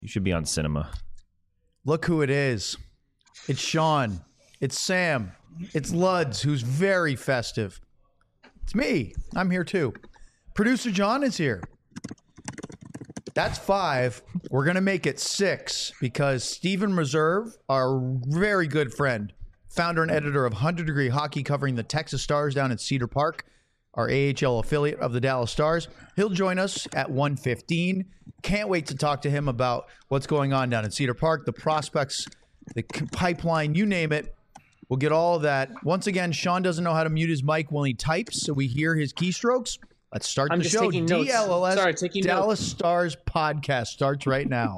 You should be on cinema. Look who it is. It's Sean. It's Sam. It's Luds, who's very festive. It's me. I'm here too. Producer John is here. That's 5. We're going to make it 6 because Steven Reserve, our very good friend, founder and editor of 100 Degree Hockey covering the Texas Stars down in Cedar Park, our AHL affiliate of the Dallas Stars. He'll join us at 1:15. Can't wait to talk to him about what's going on down in Cedar Park, the prospects, the pipeline, you name it. We'll get all of that. Once again, Sean doesn't know how to mute his mic when he types, so we hear his keystrokes. Let's start the show. DLLS Dallas notes. Stars podcast starts right now.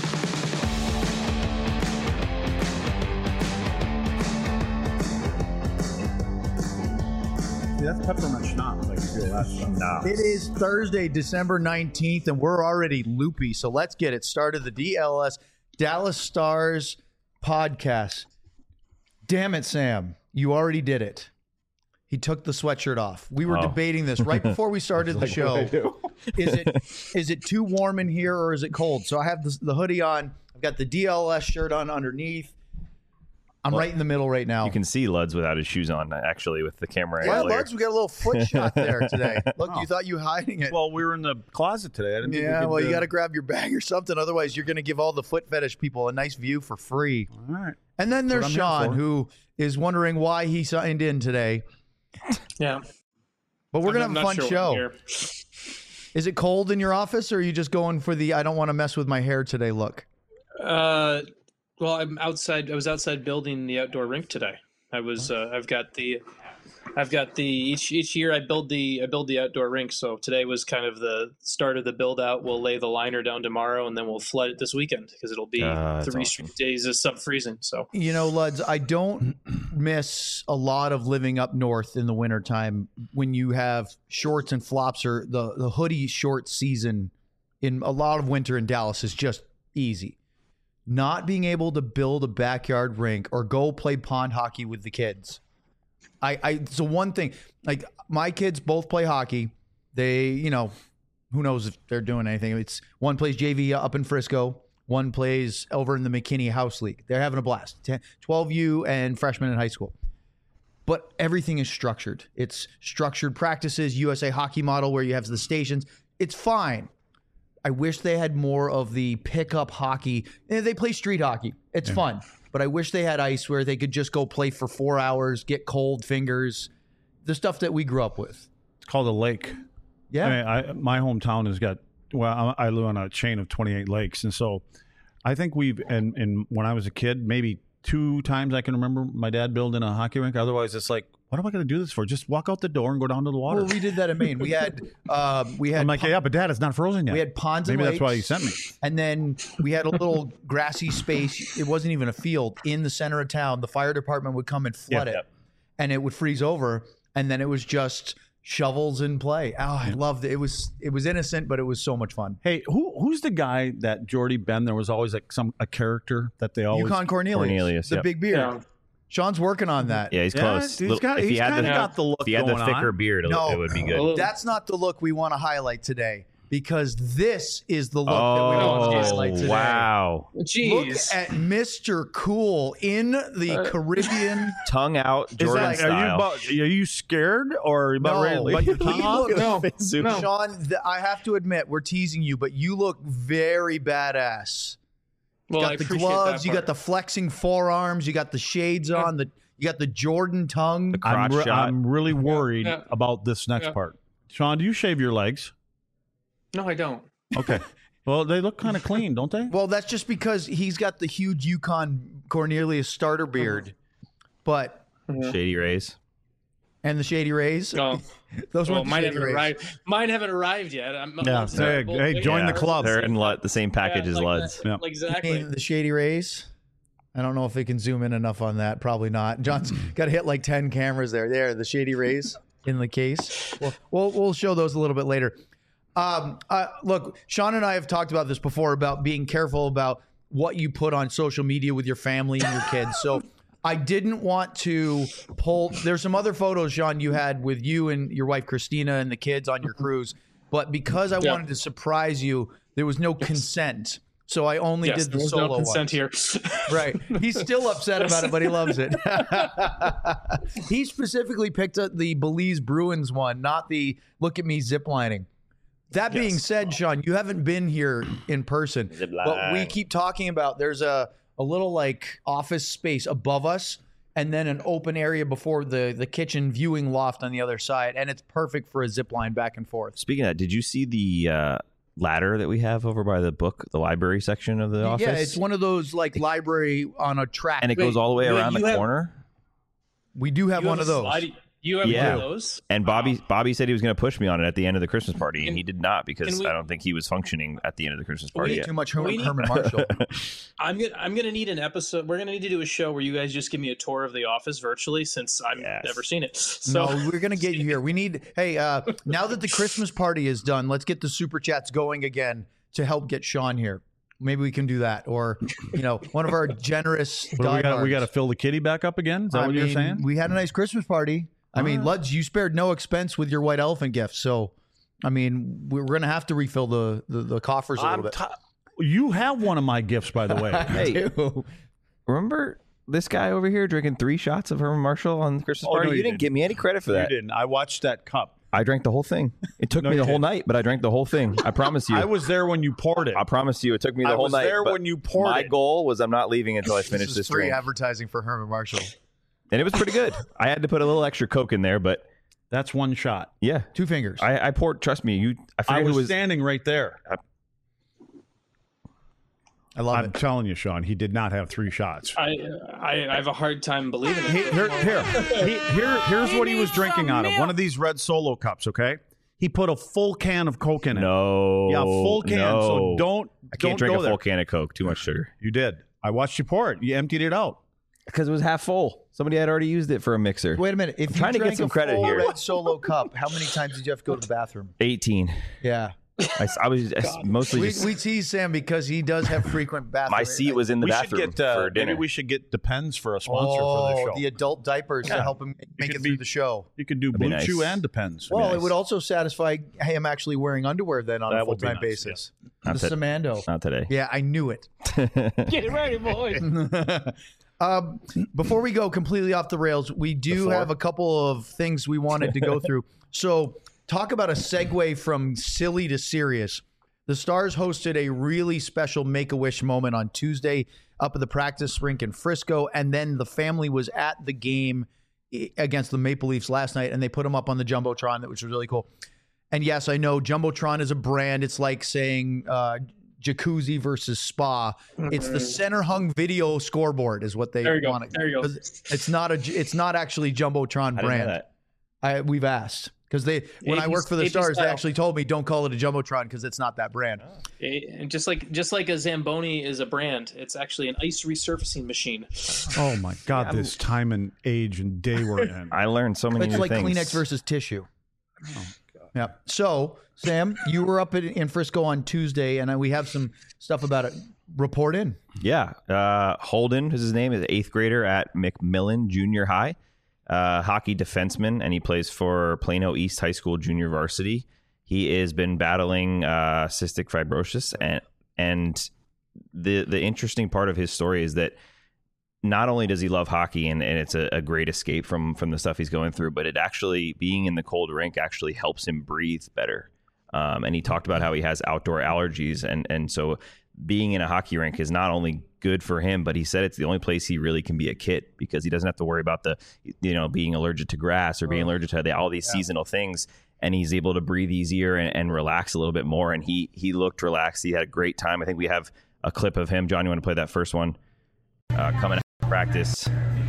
That's peppermint schnapps. I can feel that stuff. It is Thursday, December 19th, and we're already loopy. So let's get it started. The DLS Dallas Stars podcast. Damn it, Sam. You already did it. He took the sweatshirt off. We were debating this right before we started the show. Is it too warm in here or is it cold? So I have the hoodie on. I've got the DLS shirt on underneath. I'm right in the middle right now. You can see Luds without his shoes on, actually, with the camera angle. Yeah, Luds, we got a little foot shot there today. Look, you thought you were hiding it. Well, we were in the closet today. I didn't think we could, you got to grab your bag or something. Otherwise, you're going to give all the foot fetish people a nice view for free. All right. And then there's Sean, who is wondering why he signed in today. Yeah. But we're going to have a fun show. Is it cold in your office, or are you just going for the I don't want to mess with my hair today look? Well, I'm outside. I was outside building the outdoor rink today. I've got the each year I build the outdoor rink. So today was kind of the start of the build out. We'll lay the liner down tomorrow, and then we'll flood it this weekend because it'll be 3 straight days of sub freezing. So Luds, I don't miss a lot of living up north in the wintertime when you have shorts and flops, or the hoodie short season in a lot of winter in Dallas is just easy. Not being able to build a backyard rink or go play pond hockey with the kids. It's the one thing. Like, my kids both play hockey. They, who knows if they're doing anything. It's one plays JV up in Frisco. One plays over in the McKinney House League. They're having a blast. 12U and freshmen in high school. But everything is structured. It's structured practices, USA hockey model where you have the stations. It's fine. I wish they had more of the pickup hockey. They play street hockey. It's fun. But I wish they had ice where they could just go play for 4 hours, get cold fingers, the stuff that we grew up with. It's called a lake. Yeah. I mean, my hometown has got, I live on a chain of 28 lakes. And so I think and when I was a kid, maybe 2 times I can remember my dad building a hockey rink. Otherwise, it's like, what am I going to do this for? Just walk out the door and go down to the water. Well, we did that in Maine. We had. I'm like, yeah, but Dad, it's not frozen yet. We had ponds and maybe lakes. That's why he sent me. And then we had a little grassy space. It wasn't even a field in the center of town. The fire department would come and flood it, and it would freeze over. And then it was just shovels in play. Oh, I loved it. It was innocent, but it was so much fun. Hey, who's the guy that Jordy Ben? There was always like a character that they always Yukon Cornelius, the big beard. Yeah. Sean's working on that. Yeah, he's close. He's got the look. If he had the thicker beard, it would be good. That's not the look we want to highlight today, because this is the look that we want to highlight today. Wow. Jeez. Look at Mr. Cool in the Caribbean. Tongue out, Jordan style. Are you scared or about ready to bite your tongue off? No. Sean, I have to admit, we're teasing you, but you look very badass. You got the gloves, you got the flexing forearms, you got the shades on, you got the Jordan tongue. I'm really worried about this next part. Sean, do you shave your legs? No, I don't. Okay. Well, they look kind of clean, don't they? Well, that's just because he's got the huge Yukon Cornelius starter beard. But Shady Rays. And the Shady Rays. Oh. Those well, mine haven't arrived. Mine haven't arrived yet. Hey, join the club. They're in the same package as Luds. Yeah. Exactly. The Shady Rays. I don't know if they can zoom in enough on that. Probably not. John's got to hit like 10 cameras there. There, the Shady Rays in the case. We'll show those a little bit later. Look, Sean and I have talked about this before, about being careful about what you put on social media with your family and your kids. So I didn't want to pull. There's some other photos, Sean, you had with you and your wife, Christina, and the kids on your cruise. But because I wanted to surprise you, there was no consent. So I only did the solo no consent here. Right. He's still upset about it, but he loves it. He specifically picked up the Belize Bruins one, not the look at me ziplining. That being said, Sean, you haven't been here in person, but we keep talking about there's a little like office space above us and then an open area before the kitchen viewing loft on the other side. And it's perfect for a zip line back and forth. Speaking of that, did you see the ladder that we have over by the library section of the office? Yeah, it's one of those like library on a track. And it goes all the way around the corner? We do have one of those. You have one of those? And Bobby said he was going to push me on it at the end of the Christmas party, and he did not because I don't think he was functioning at the end of the Christmas party yet. Too much Herman Marshall. I'm gonna need an episode. We're gonna need to do a show where you guys just give me a tour of the office virtually, since I've never seen it. So no, we're gonna get you here. We need. Hey, now that the Christmas party is done, let's get the super chats going again to help get Sean here. Maybe we can do that, or one of our generous. We got to fill the kitty back up again. Is that what you're saying? We had a nice Christmas party. I mean, Luds, you spared no expense with your white elephant gift. So, I mean, we're going to have to refill the coffers a little bit. You have one of my gifts, by the way. Hey, remember this guy over here drinking 3 shots of Herman Marshall on the Christmas party? No, you didn't give me any credit for that. You didn't. I watched that cup. I drank the whole thing. It took me the whole night, but I drank the whole thing. I promise you. I was there when you poured it. I promise you, it took me the whole night. I was there when you poured it. My goal was I'm not leaving until I finish this drink. Free advertising for Herman Marshall. And it was pretty good. I had to put a little extra Coke in there, but that's one shot. Yeah, 2 fingers. I poured. Trust me, I was standing right there. I'm telling you, Sean, he did not have 3 shots. I have a hard time believing it. Here's what he was drinking out of. One of these red Solo cups. Okay, he put a full can of Coke in it. No, yeah, full can. No. So don't. I can't drink a full can of Coke. Too much sugar. You did. I watched you pour it. You emptied it out. Because it was half full. Somebody had already used it for a mixer. Wait a minute. If I'm trying to get some credit here. Red Solo cup, how many times did you have to go to the bathroom? 18. Yeah. I was mostly we tease Sam because he does have frequent bathroom. My seat was in the bathroom for dinner. Maybe we should get Depends for a sponsor for the show. The adult diapers to help him make it through the show. You could do Blue Chew and Depends. Well, it would also satisfy him actually wearing underwear then on a full-time basis. Yeah. The Samando. Not today. Yeah, I knew it. Get ready, boys. Before we go completely off the rails, we do have a couple of things we wanted to go through. So talk about a segue from silly to serious. The Stars hosted a really special Make-A-Wish moment on Tuesday up at the practice rink in Frisco, and then the family was at the game against the Maple Leafs last night, and they put them up on the Jumbotron, which was really cool. And yes, I know Jumbotron is a brand. It's like saying jacuzzi versus spa. It's the center hung video scoreboard is what they want. There you go. It's not actually Jumbotron brand. We've asked because when I worked for the Stars, they actually told me don't call it a Jumbotron because it's not that brand. And just like a Zamboni is a brand, it's actually an ice resurfacing machine. Oh my God! This time and age and day we're in. I learned so many new things. It's like Kleenex versus tissue. Oh. Yeah. So, Sam, you were up in Frisco on Tuesday, and we have some stuff about it. Report in. Yeah. Holden is his name. Is an 8th grader at McMillan Junior High. Hockey defenseman, and he plays for Plano East High School Junior Varsity. He has been battling cystic fibrosis, and the interesting part of his story is that not only does he love hockey and it's a great escape from the stuff he's going through, but it actually, being in the cold rink actually helps him breathe better. And he talked about how he has outdoor allergies. And so being in a hockey rink is not only good for him, but he said it's the only place he really can be a kid because he doesn't have to worry about being allergic to grass or being allergic to all these seasonal things. And he's able to breathe easier and relax a little bit more. And he looked relaxed. He had a great time. I think we have a clip of him. John, you want to play that first one? Coming out of practice.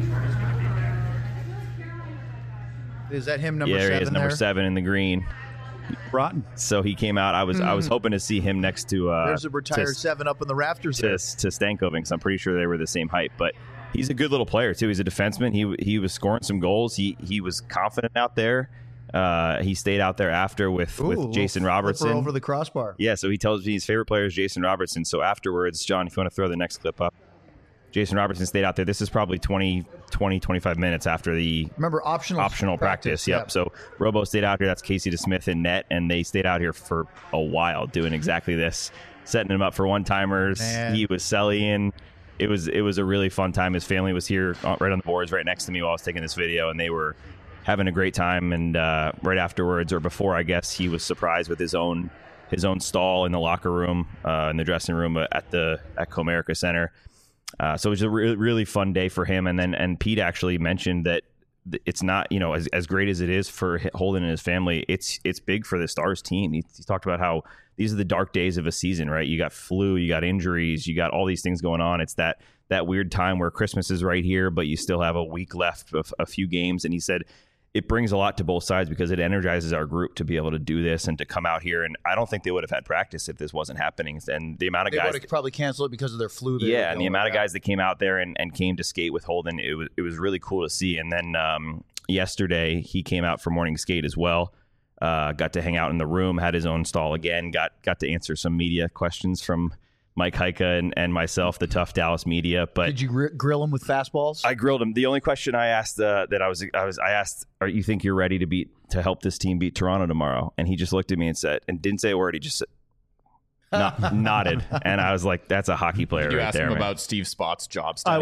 Is that him, number 7 Yeah, he is number 7 in the green. Rotten. So he came out. I was hoping to see him next to there's a retired 7 up in the rafters to Stankoven, because I'm pretty sure they were the same height. But he's a good little player too. He's a defenseman. He was scoring some goals. He was confident out there. He stayed out there after with Jason Robertson over the crossbar. Yeah, so he tells me his favorite player is Jason Robertson. So afterwards, John, if you want to throw the next clip up. Jason Robertson stayed out there. This is probably 25 minutes after the optional practice. Yep. Yeah. So Robo stayed out here. That's Casey DeSmith in net, and they stayed out here for a while doing exactly this. setting him up for one-timers. Man. He was selling. It was a really fun time. His family was here right on the boards right next to me while I was taking this video, and they were having a great time. And right afterwards, or before, I guess, he was surprised with his own stall in the locker room, in the dressing room at Comerica Center. So it was a really fun day for him. And Pete actually mentioned that it's not, as great as it is for Holden and his family, it's big for the Stars team. He talked about how these are the dark days of a season, right? You got flu, you got injuries, you got all these things going on. It's that weird time where Christmas is right here, but you still have a week left of a few games. And he said it brings a lot to both sides because it energizes our group to be able to do this and to come out here. And I don't think they would have had practice if this wasn't happening. And the amount of guys would have probably canceled it because of their flu. Yeah, and the amount of guys that came out there and came to skate with Holden, it was really cool to see. And then yesterday he came out for morning skate as well. Got to hang out in the room, had his own stall again. Got to answer some media questions from Mike Heika and myself, the tough Dallas media. But did you grill him with fastballs? I grilled him. The only question I asked I asked, "Are you think you're ready to help this team beat Toronto tomorrow?" And he just looked at me and said, and didn't say a word. He just nodded, and I was like, "That's a hockey player You right asked there." him Man. about Steve Spott's job I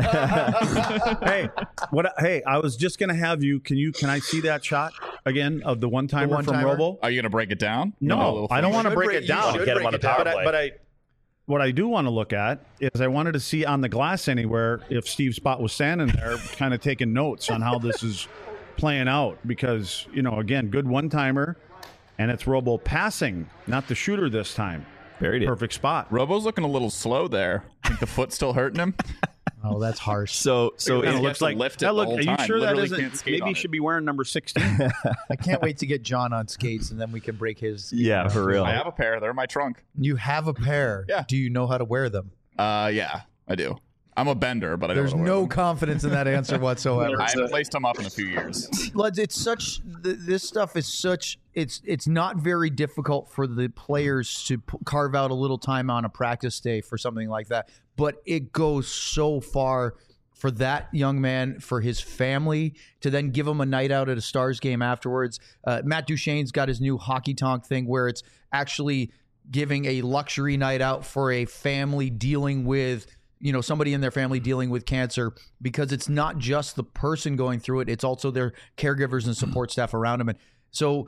status. was hey, I was just gonna have you. Can I see that shot again of the one-timer from one-timer? Robo? Are you going to break it down? No, I don't want to should break break- it down. you should Get him on the power play. But what I do want to look at is I wanted to see on the glass anywhere if Steve Spott was standing there kind of taking notes on how this is playing out because, again, good one-timer, and it's Robo passing, not the shooter this time. Buried it. Perfect spot. Robo's looking a little slow there. Think the foot's still hurting him? Oh, that's harsh. So Kinda It looks looks like lift it that the look. whole Are you time. sure that Literally isn't? can't skate Maybe on he it. should be wearing number 16. I can't wait to get John on skates, and then we can break his. yeah, for real. I have a pair. They're in my trunk. You have a pair. Yeah. Do you know how to wear them? Yeah, I do. I'm a bender, but I There's don't know. no confidence in that answer whatsoever. I haven't laced them up in a few years. Lads, it's such this stuff is such it's not very difficult for the players to carve out a little time on a practice day for something like that, but it goes so far for that young man, for his family, to then give him a night out at a Stars game afterwards. Matt Duchene's got his new Hockey Tonk thing where it's actually giving a luxury night out for a family dealing with somebody in their family dealing with cancer, because it's not just the person going through it, it's also their caregivers and support staff around them. And so,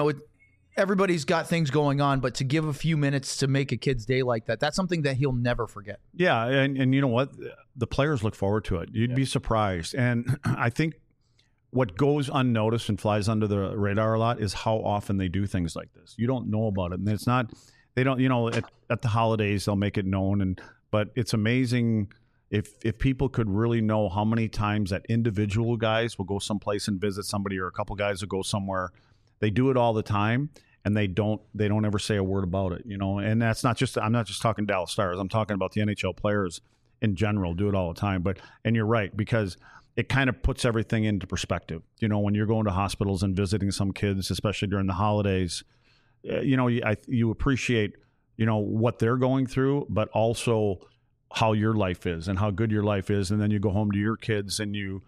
everybody's got things going on, but to give a few minutes to make a kid's day like that, that's something that he'll never forget. Yeah, and you know what? The players look forward to it. You'd be surprised. And I think what goes unnoticed and flies under the radar a lot is how often they do things like this. You don't know about it. And it's not, they don't, at the holidays, they'll make it known. But it's amazing if people could really know how many times that individual guys will go someplace and visit somebody, or a couple guys will go somewhere. They do it all the time, and they don't ever say a word about it, And that's not just, I'm not just talking Dallas Stars. I'm talking about the NHL players in general do it all the time. And you're right, because it kind of puts everything into perspective. When you're going to hospitals and visiting some kids, especially during the holidays, you appreciate what they're going through, but also how your life is and how good your life is. And then you go home to your kids and you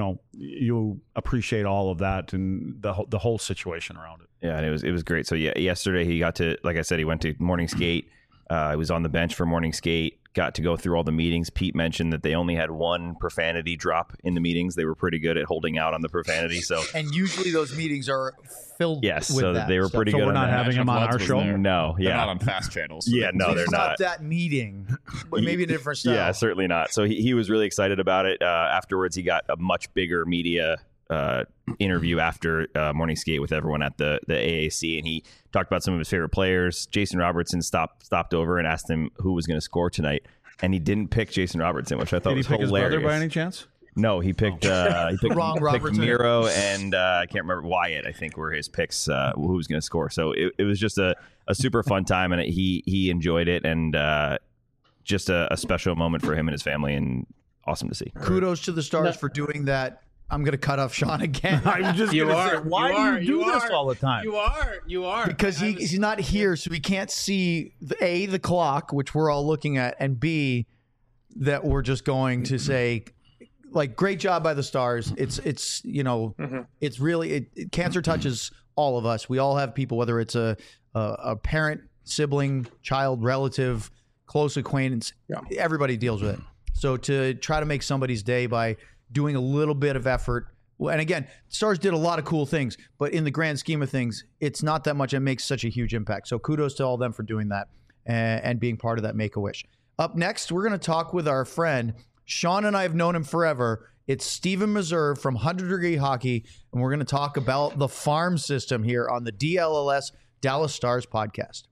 appreciate all of that and the whole situation around it. Yeah, and it was great. So yeah, yesterday he got to, like I said, he went to morning skate. He was on the bench for morning skate. Got to go through all the meetings. Pete mentioned that they only had one profanity drop in the meetings. They were pretty good at holding out on the profanity. So And usually those meetings are filled yes, with so that they were stuff. pretty So good. we're on not that. having him on our show? No, They're yeah, not on fast channels. yeah, no, they're It's not. that meeting, but maybe a different style. Yeah, certainly not. So he was really excited about it. Afterwards, he got a much bigger media interview after morning skate with everyone at the AAC, and he talked about some of his favorite players. Jason Robertson stopped over and asked him who was going to score tonight, and he didn't pick Jason Robertson, which I thought Did he was pick hilarious. his brother by any chance? No, he picked Wrong picked Robertson. Miro and I can't remember Wyatt. I think were his picks. Who was going to score? So it was just a super fun time, and he enjoyed it, and just a special moment for him and his family, and awesome to see. Kudos to the Stars for doing that. I'm going to cut off Sean again. I'm just You gonna are. say, why do you do this are. all the time? You are. Because he's not here, so he can't see the clock, which we're all looking at, and B, that we're just going to say, like, great job by the Stars. It's really cancer touches all of us. We all have people, whether it's a parent sibling, child, relative, close acquaintance. Everybody deals with it. So to try to make somebody's day by doing a little bit of effort, and again, Stars did a lot of cool things, but in the grand scheme of things, it's not that much. It makes such a huge impact. So kudos to all of them for doing that and being part of that Make-A-Wish. Up next, we're going to talk with our friend. Sean and I have known him forever. It's Stephen Meserve from 100 Degree Hockey, and we're going to talk about the farm system here on the DLLS Dallas Stars podcast.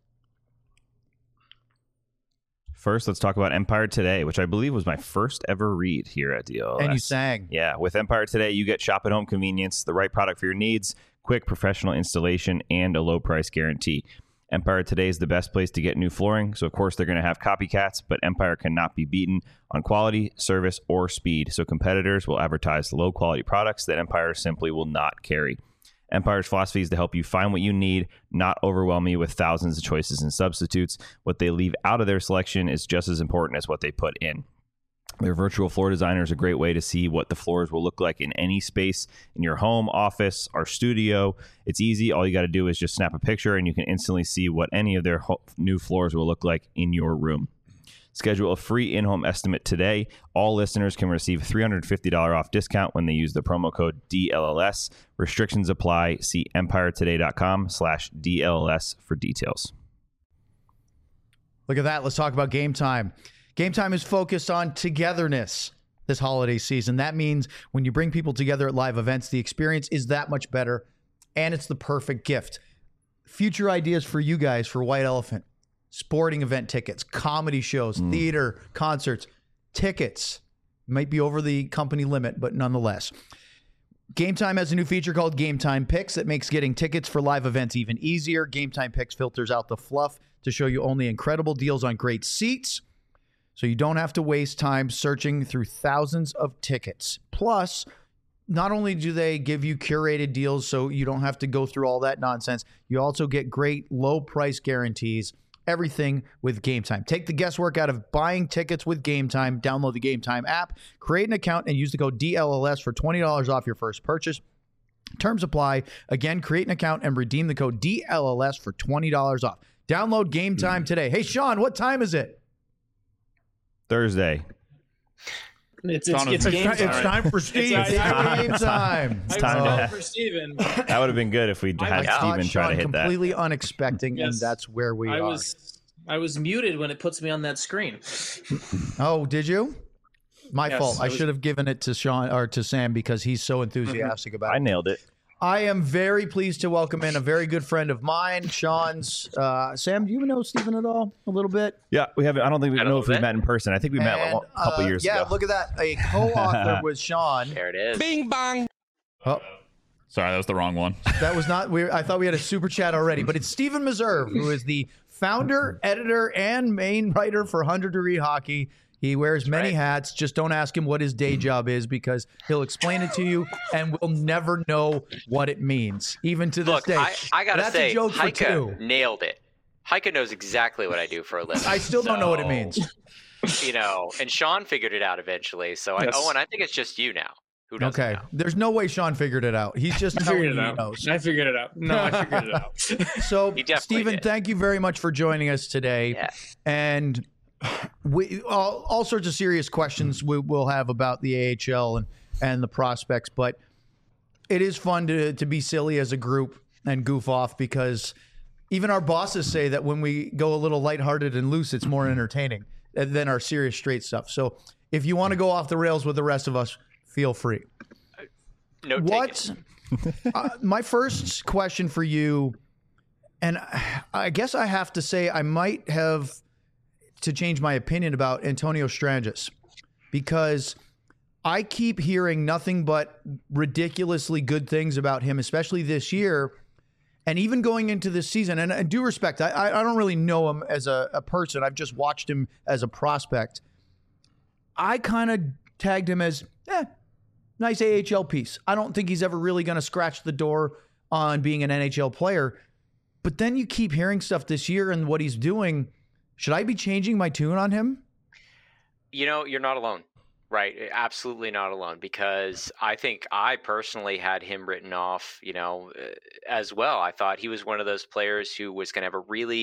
First, let's talk about Empire Today, which I believe was my first ever read here at DLLS. And you sang. Yeah, with Empire Today, you get shop at home convenience, the right product for your needs, quick professional installation, and a low price guarantee. Empire Today is the best place to get new flooring, so of course they're going to have copycats, but Empire cannot be beaten on quality, service, or speed, so competitors will advertise low-quality products that Empire simply will not carry. Empire's philosophy is to help you find what you need, not overwhelm you with thousands of choices and substitutes. What they leave out of their selection is just as important as what they put in. Their virtual floor designer is a great way to see what the floors will look like in any space in your home, office, or studio. It's easy. All you got to do is just snap a picture and you can instantly see what any of their new floors will look like in your room. Schedule a free in-home estimate today. All listeners can receive a $350 off discount when they use the promo code DLLS. Restrictions apply. See empiretoday.com/DLLS for details. Look at that. Let's talk about Game Time. Game Time is focused on togetherness this holiday season. That means when you bring people together at live events, the experience is that much better, and it's the perfect gift. Future ideas for you guys for White Elephant: sporting event tickets, comedy shows, theater, concerts, tickets. Might be over the company limit, but nonetheless. Game Time has a new feature called Game Time Picks that makes getting tickets for live events even easier. Game Time Picks filters out the fluff to show you only incredible deals on great seats, so you don't have to waste time searching through thousands of tickets. Plus, not only do they give you curated deals so you don't have to go through all that nonsense, you also get great low price guarantees. Everything with Game Time. Take the guesswork out of buying tickets with Game Time. Download the Game Time app, create an account, and use the code DLLS for $20 off your first purchase. Terms apply. Again, create an account and redeem the code DLLS for $20 off. Download Game Time today. Hey, Sean, what time is it? Thursday. It's game time. It's time for Steve. It's Game Time. It's time to for Steven. That would have been good if we had Steven try to hit that. Completely unexpected, and Yes. that's where we are. I was muted when it puts me on that screen. Oh, did you? My Yes, fault. I I was- should have given it to Sean or to Sam because he's so enthusiastic about it. I nailed it. I am very pleased to welcome in a very good friend of mine, Sean's. Sam, do you know Stephen at all? A little bit? Yeah, we haven't. I don't think we A know little if we bit. met in person. I think we met And, a couple years yeah, ago. look at that. A co-author with Sean. There it is. Oh, Sorry, that was the wrong one. that was not weird. I thought we had a super chat already, but it's Stephen Meserve, who is the founder, editor, and main writer for 100 Degree Hockey. He wears many hats. Just don't ask him what his day job is because he'll explain it to you and we'll never know what it means, even to this Look, day. I gotta That's say, a joke for two. Heike nailed it. Heike knows exactly what I do for a living. I still don't know what it means. You know, and Sean figured it out eventually. So, Yes. Owen, I think it's just you now. Who doesn't Okay. know? There's no way Sean figured it out. He's just I telling figured you it he out. knows. I figured it out. No, I figured it out. So, He definitely Stephen, did. thank you very much for joining us today. Yeah. And we all sorts of serious questions we'll have about the AHL and the prospects, but it is fun to be silly as a group and goof off because even our bosses say that when we go a little lighthearted and loose, it's more entertaining than our serious straight stuff. So if you want to go off the rails with the rest of us, feel free. No What? My first question for you, and I guess I have to say I might have to change my opinion about Antonio Stranges because I keep hearing nothing but ridiculously good things about him, especially this year. And even going into this season, and I do respect, I don't really know him as a person. I've just watched him as a prospect. I kind of tagged him as, nice AHL piece. I don't think he's ever really going to scratch the door on being an NHL player. But then you keep hearing stuff this year and what he's doing. Should I be changing my tune on him? You know, you're not alone, right? Absolutely not alone, because I think I personally had him written off, as well. I thought he was one of those players who was going to have a really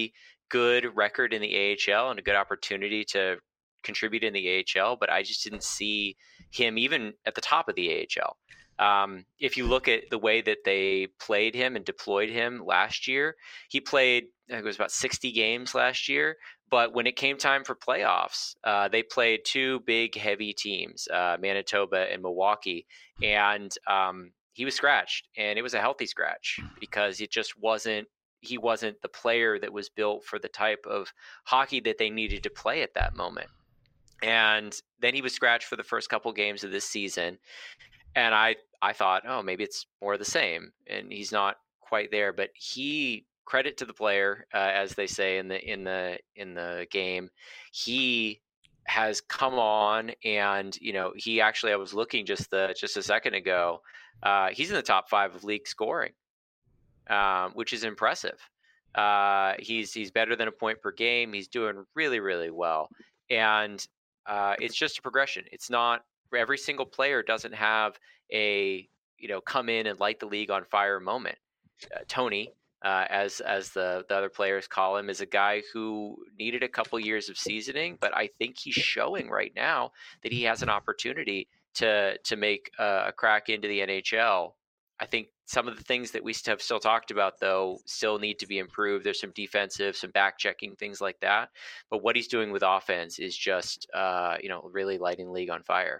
good record in the AHL and a good opportunity to contribute in the AHL, but I just didn't see him even at the top of the AHL. If you look at the way that they played him and deployed him last year, he played, I think it was about 60 games last year. But when it came time for playoffs, they played two big, heavy teams, Manitoba and Milwaukee. And he was scratched, and it was a healthy scratch because it just wasn't, he wasn't the player that was built for the type of hockey that they needed to play at that moment. And then he was scratched for the first couple games of this season. And I thought, oh, maybe it's more of the same, and he's not quite there. But credit to the player, as they say in the game, he has come on, and he actually, I was looking just a second ago, he's in the top 5 of league scoring, which is impressive. He's better than a point per game. He's doing really, really well, and it's just a progression. It's not. Every single player doesn't have a come in and light the league on fire moment. Tony, as the other players call him, is a guy who needed a couple years of seasoning, but I think he's showing right now that he has an opportunity to make a crack into the NHL. I think some of the things that we have still talked about, though, still need to be improved. There's some defensive, some back checking, things like that. But what he's doing with offense is just really lighting the league on fire.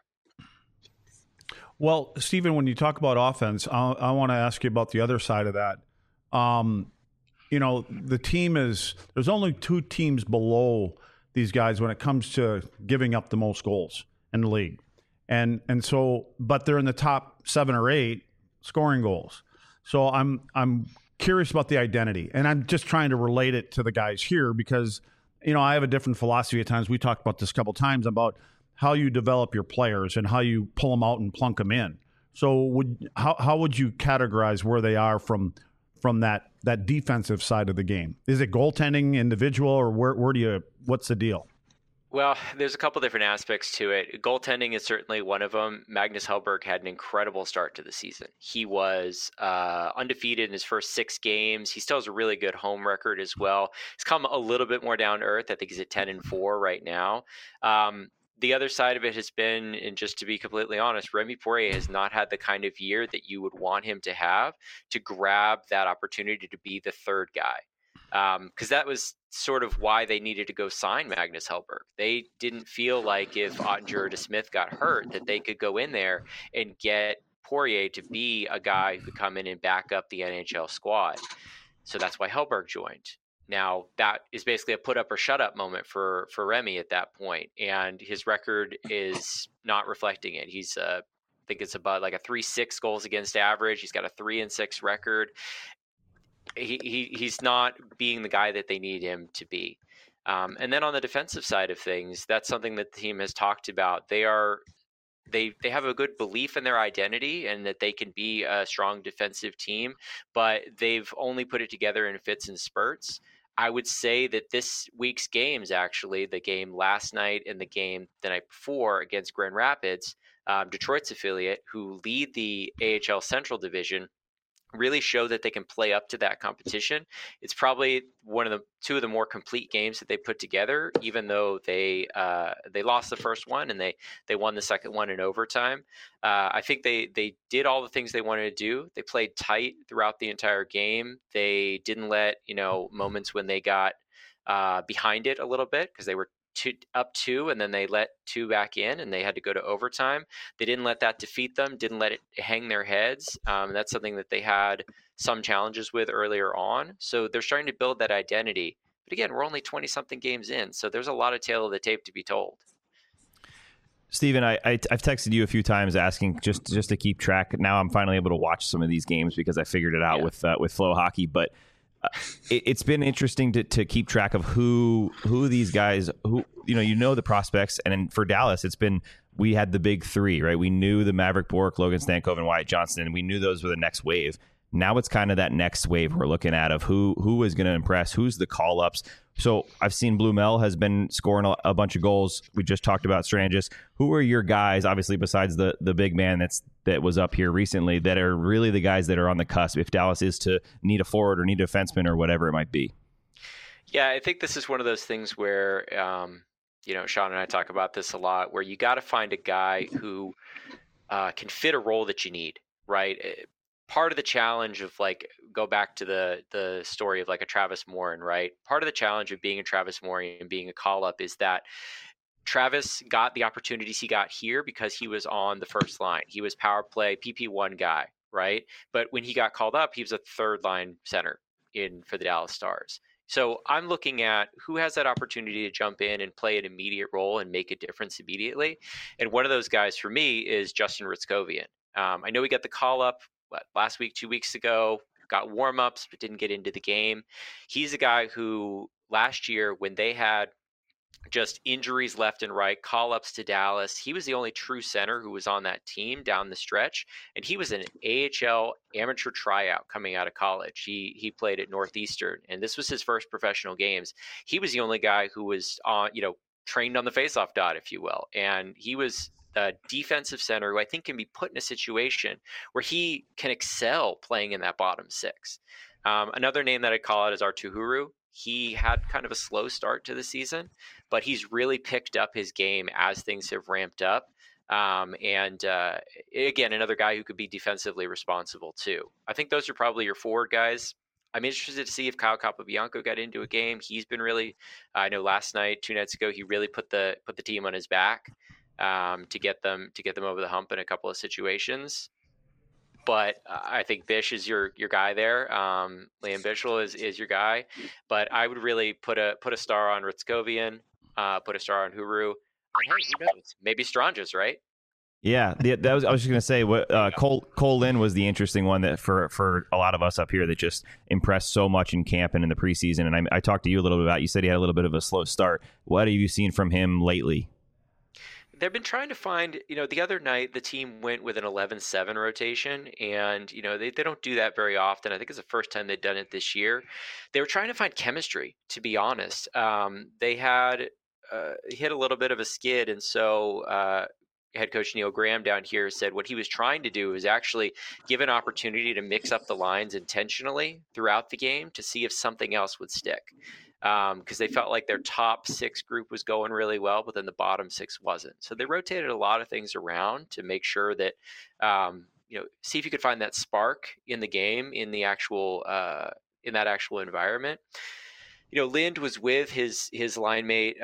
Well, Stephen, when you talk about offense, I want to ask you about the other side of that. The team there's only 2 teams below these guys when it comes to giving up the most goals in the league. And so, but they're in the top 7 or 8 scoring goals. So I'm curious about the identity, and I'm just trying to relate it to the guys here because, I have a different philosophy at times. We talked about this a couple of times about how you develop your players and how you pull them out and plunk them in. So how would you categorize where they are from that defensive side of the game? Is it goaltending, individual, or what's the deal? Well, there's a couple different aspects to it. Goaltending is certainly one of them. Magnus Hellberg had an incredible start to the season. He was undefeated in his first 6 games. He still has a really good home record as well. He's come a little bit more down to earth. I think he's at 10-4 right now. The other side of it has been, and just to be completely honest, Remy Poirier has not had the kind of year that you would want him to have to grab that opportunity to be the third guy. Because that was sort of why they needed to go sign Magnus Hellberg. They didn't feel like if Ottinger or DeSmith got hurt that they could go in there and get Poirier to be a guy who could come in and back up the NHL squad. So that's why Hellberg joined. Now, that is basically a put up or shut up moment for Remy at that point, and his record is not reflecting it. He's I think it's about like a 3.6 goals against average. He's got a 3-6 record. He's not being the guy that they need him to be. And then on the defensive side of things, that's something that the team has talked about. They have a good belief in their identity and that they can be a strong defensive team, but they've only put it together in fits and spurts. I would say that this week's games, actually, the game last night and the game the night before against Grand Rapids, Detroit's affiliate, who lead the AHL Central Division, really show that they can play up to that competition. It's probably two of the more complete games that they put together, even though they lost the first one and they won the second one in overtime. I think they did all the things they wanted to do. They played tight throughout the entire game. They didn't let moments when they got behind it a little bit, because they were up 2 and then they let 2 back in and they had to go to overtime. They didn't let that defeat them, didn't let it hang their heads. That's something that they had some challenges with earlier on. So they're starting to build that identity. But again, we're only 20-something games in, so there's a lot of tail of the tape to be told. Stephen, I've texted you a few times asking just to keep track. Now I'm finally able to watch some of these games because I figured it out with Flow Hockey. But it's been interesting to keep track of who these guys, who the prospects. And then for Dallas, we had the big 3, right? We knew the Maverick Bourque, Logan Stankov, and Wyatt Johnston, and we knew those were the next wave. Now it's kind of that next wave we're looking at of who is going to impress, who's the call-ups. So I've seen Blumel has been scoring a bunch of goals. We just talked about Strangis. Who are your guys, obviously besides the big man that was up here recently, that are really the guys that are on the cusp if Dallas is to need a forward or need a defenseman or whatever it might be? Yeah, I think this is one of those things where, Sean and I talk about this a lot, where you got to find a guy who can fit a role that you need, right? Part of the challenge of go back to the story of like a Travis Morin, right? Part of the challenge of being a Travis Morin and being a call up is that Travis got the opportunities he got here because he was on the first line. He was power play PP1 guy, right? But when he got called up, he was a third line center for the Dallas Stars. So I'm looking at who has that opportunity to jump in and play an immediate role and make a difference immediately. And one of those guys for me is Justin Ritzkovian. I know we got the call up last week, 2 weeks ago, got warm-ups, but didn't get into the game. He's a guy who last year, when they had just injuries left and right, call-ups to Dallas, he was the only true center who was on that team down the stretch, and he was an AHL amateur tryout coming out of college. He played at Northeastern, and this was his first professional games. He was the only guy who was on, trained on the faceoff dot, if you will, and he was a defensive center who I think can be put in a situation where he can excel playing in that bottom six. Another name that I'd call out is Arttu Huru. He had kind of a slow start to the season, but he's really picked up his game as things have ramped up. Again, another guy who could be defensively responsible too. I think those are probably your forward guys. I'm interested to see if Kyle Capobianco got into a game. He's been really, I know last night, 2 nights ago, he really put the team on his back to get them over the hump in a couple of situations. But I think Bish is your guy there. Liam Bichsel is your guy. But I would really put a star on Ritzkovian, put a star on Huru. Hey, who knows? Maybe Stranges, right? Yeah, I was just going to say, Cole Lynn was the interesting one that for a lot of us up here that just impressed so much in camp and in the preseason. And I talked to you a little bit about, you said he had a little bit of a slow start. What have you seen from him lately? They've been trying to find, the other night the team went with an 11-7 rotation, and, they don't do that very often. I think it's the first time they've done it this year. They were trying to find chemistry, to be honest. They had hit a little bit of a skid, and so head coach Neil Graham down here said what he was trying to do is actually give an opportunity to mix up the lines intentionally throughout the game to see if something else would stick. Because they felt like their top 6 group was going really well, but then the bottom 6 wasn't. So they rotated a lot of things around to make sure that, see if you could find that spark in the game, in the actual, in that actual environment. Lind was with his line mate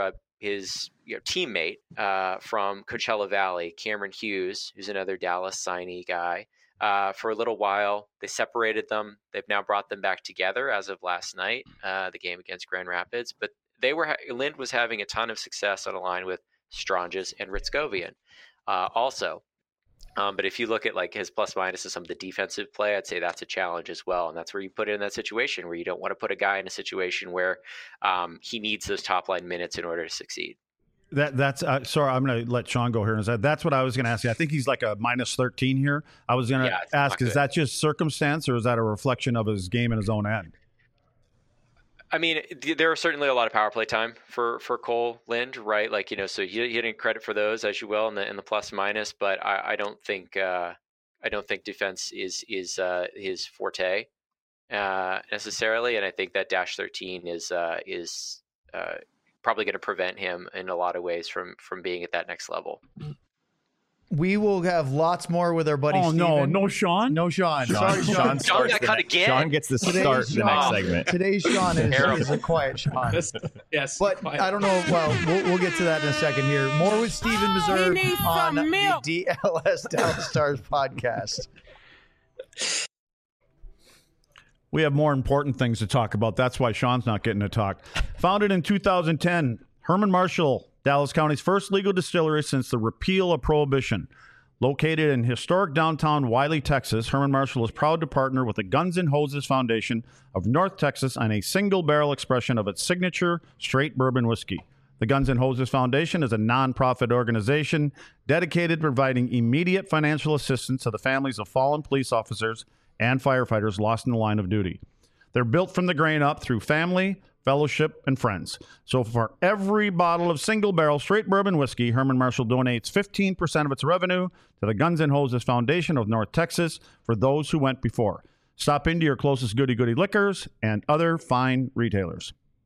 his teammate from Coachella Valley, Cameron Hughes, who's another Dallas signee guy. For a little while, they separated them. They've now brought them back together as of last night, the game against Grand Rapids. But Lind was having a ton of success on a line with Stranges and Ritzkovian also. But if you look at his plus minus of some of the defensive play, I'd say that's a challenge as well. And that's where you put it in that situation where you don't want to put a guy in a situation where he needs those top line minutes in order to succeed. That's sorry, I'm going to let Sean go here. And that's what I was going to ask you. I think he's like a minus 13 here. I was going to ask, is that just circumstance or is that a reflection of his game in his own end? I mean, there are certainly a lot of power play time for Cole Lind, right? So you didn't credit for those as you will in the plus minus, but I don't think defense is his forte necessarily, and I think that dash 13 is probably going to prevent him in a lot of ways from being at that next level. We will have lots more with our buddy Steven. No Sean? No Sean. Sorry, Sean. Sean got cut again. Sean gets to start the next segment. Today's Sean is a quiet Sean. Yes. But quiet. I don't know. Well, we'll get to that in a second here. More with Steven Meserve on the DLS Dallas Stars podcast. We have more important things to talk about. That's why Sean's not getting to talk. Founded in 2010, Herman Marshall, Dallas County's first legal distillery since the repeal of Prohibition. Located in historic downtown Wiley, Texas, Herman Marshall is proud to partner with the Guns N' Hoses Foundation of North Texas on a single-barrel expression of its signature straight bourbon whiskey. The Guns N' Hoses Foundation is a nonprofit organization dedicated to providing immediate financial assistance to the families of fallen police officers and firefighters lost in the line of duty. They're built from the grain up through family, fellowship, and friends. So for every bottle of single-barrel straight bourbon whiskey, Herman Marshall donates 15% of its revenue to the Guns N' Hoses Foundation of North Texas for those who went before. Stop into your closest Goody Goody Liquors and other fine retailers.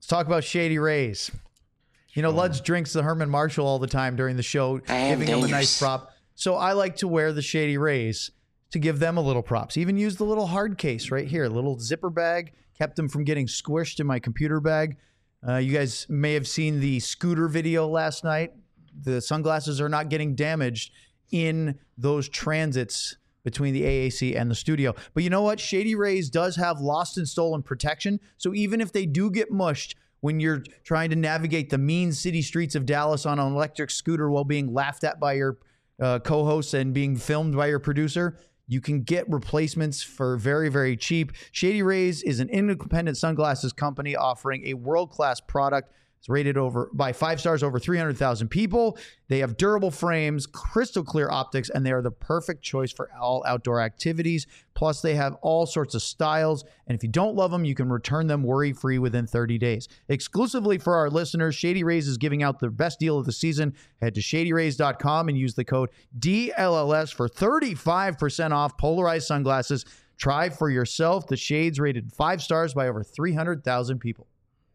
Let's talk about Shady Rays. You know, Luds drinks the Herman Marshall all the time during the show, giving him a nice prop. So I like to wear the Shady Rays to give them a little props. Even used the little hard case right here, little zipper bag, kept them from getting squished in my computer bag. You guys may have seen the scooter video last night. The sunglasses are not getting damaged in those transits between the AAC and the studio. But you know what? Shady Rays does have lost and stolen protection. So even if they do get mushed when you're trying to navigate the mean city streets of Dallas on an electric scooter while being laughed at by your co-hosts and being filmed by your producer, you can get replacements for very, very cheap. Shady Rays is an independent sunglasses company offering a world-class product. It's rated by 5 stars over 300,000 people. They have durable frames, crystal clear optics, and they are the perfect choice for all outdoor activities. Plus, they have all sorts of styles. And if you don't love them, you can return them worry-free within 30 days. Exclusively for our listeners, Shady Rays is giving out the best deal of the season. Head to shadyrays.com and use the code DLLS for 35% off polarized sunglasses. Try for yourself. The shades rated 5 stars by over 300,000 people.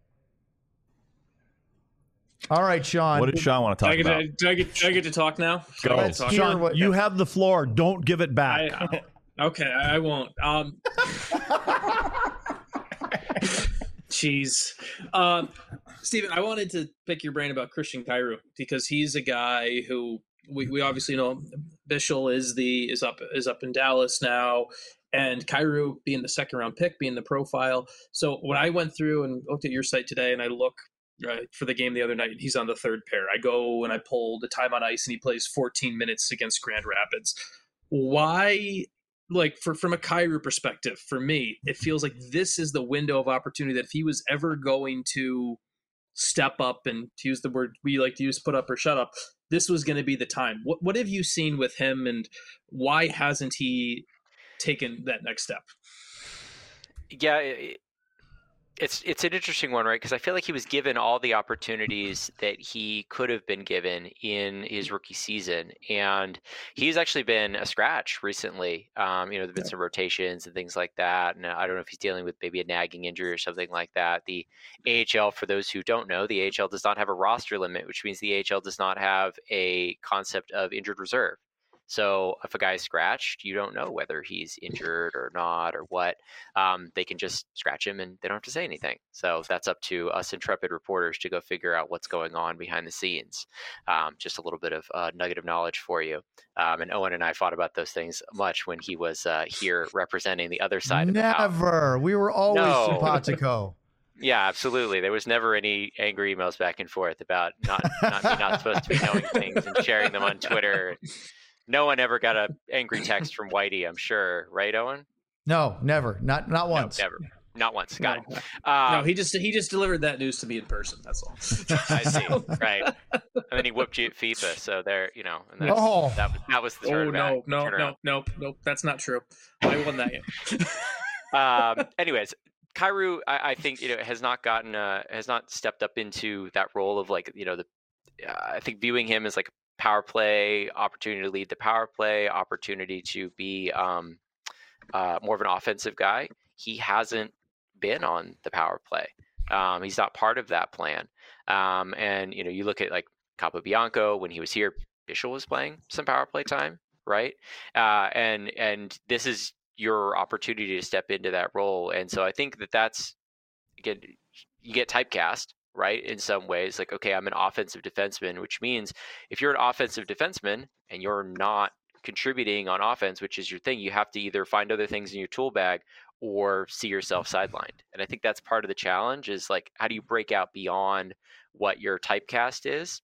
All right, Sean. What did Sean want to talk about? Do I get to talk now? Go. Let's hear Sean, what- you have the floor. Don't give it back. Okay, I won't. Jeez. Steven, I wanted to pick your brain about Christian Kyrou because he's a guy who we obviously know Bischel is up in Dallas now, and Kyrou being the second round pick, being the profile. So when I went through and looked at your site today and I look for the game the other night, he's on the third pair. I go and I pull the time on ice and he plays 14 minutes against Grand Rapids. Why, like from a Kyrou perspective, for me, it feels like this is the window of opportunity that if he was ever going to step up and to use the word we like to use, put up or shut up, this was going to be the time. What have you seen with him and why hasn't he taken that next step? Yeah, it's an interesting one, right? Because I feel like he was given all the opportunities that he could have been given in his rookie season, and he's actually been a scratch recently. There've been some rotations and things like that, and I don't know if he's dealing with maybe a nagging injury or something like that. The AHL, for those who don't know, the AHL does not have a roster limit, which means the AHL does not have a concept of injured reserve. So if a guy's scratched, you don't know whether he's injured or not or what. They can just scratch him and they don't have to say anything. So that's up to us intrepid reporters to go figure out what's going on behind the scenes. Just a little bit of nugget of knowledge for you. And Owen and I fought about those things much when he was here representing the other side of the house. Never. We were always simpatico. Yeah, absolutely. There was never any angry emails back and forth about not supposed to be knowing things and sharing them on Twitter. No one ever got an angry text from Whitey, I'm sure, right, Owen? No, never. Not once. No, never. Not once. Got it. No, he just delivered that news to me in person. That's all. I see. Right. And then he whooped you at FIFA. So there, and that was the turnaround. No. That's not true. I won that game. Anyways, Kyrou, I think has not stepped up into that role of I think viewing him as like power play, opportunity to lead the power play, opportunity to be more of an offensive guy. He hasn't been on the power play. He's not part of that plan. And you look at like Capobianco when he was here, Bischel was playing some power play time, right? And this is your opportunity to step into that role. And so I think that's, again, you get typecast, right? In some ways, like, okay, I'm an offensive defenseman, which means if you're an offensive defenseman and you're not contributing on offense, which is your thing, you have to either find other things in your tool bag or see yourself sidelined. And I think that's part of the challenge is like, how do you break out beyond what your typecast is?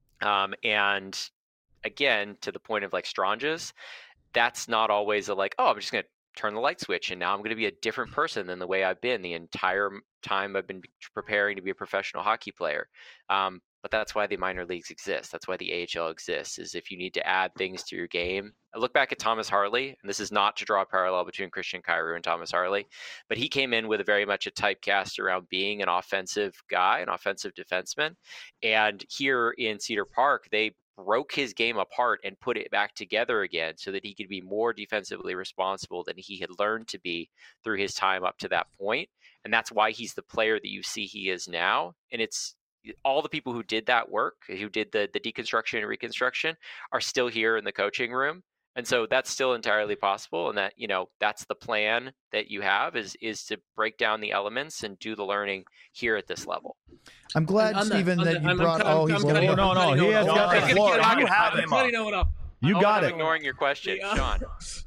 And again, to the point of like Stranges, that's not always I'm just going to turn the light switch and now I'm going to be a different person than the way I've been the entire time I've been preparing to be a professional hockey player. But that's why the minor leagues exist. That's why the AHL exists, is if you need to add things to your game. I look back at Thomas Harley, and this is not to draw a parallel between Christian Kyrou and Thomas Harley, but he came in with very much a typecast around being an offensive guy, an offensive defenseman. And here in Cedar Park, they broke his game apart and put it back together again so that he could be more defensively responsible than he had learned to be through his time up to that point. And that's why he's the player that you see he is now. And it's all the people who did that work, who did the deconstruction and reconstruction, are still here in the coaching room. And so that's still entirely possible. And that, that's the plan that you have is to break down the elements and do the learning here at this level. I'm glad, Stephen, that you brought. He's no. He has got the floor. You have him up. You got it. I'm ignoring your question, Sean.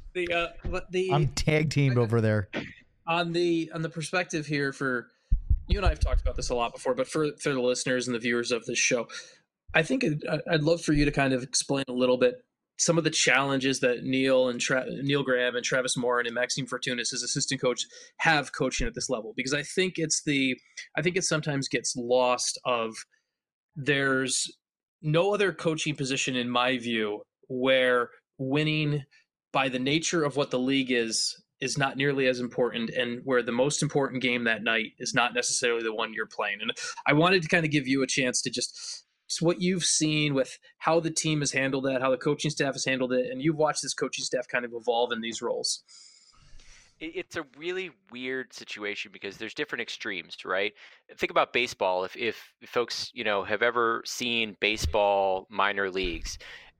I'm tag teamed over there. On the perspective here, for you and I have talked about this a lot before, but for the listeners and the viewers of this show, I think I'd love for you to kind of explain a little bit some of the challenges that Neil Graham and Travis Morin and Maxime Fortunis as assistant coach have coaching at this level, because I think it sometimes gets lost of there's no other coaching position in my view where winning by the nature of what the league is not nearly as important, and where the most important game that night is not necessarily the one you're playing. And I wanted to kind of give you a chance to just what you've seen with how the team has handled that, how the coaching staff has handled it, and you've watched this coaching staff kind of evolve in these roles. It's a really weird situation because there's different extremes, right? Think about baseball. If folks, have ever seen baseball minor leagues,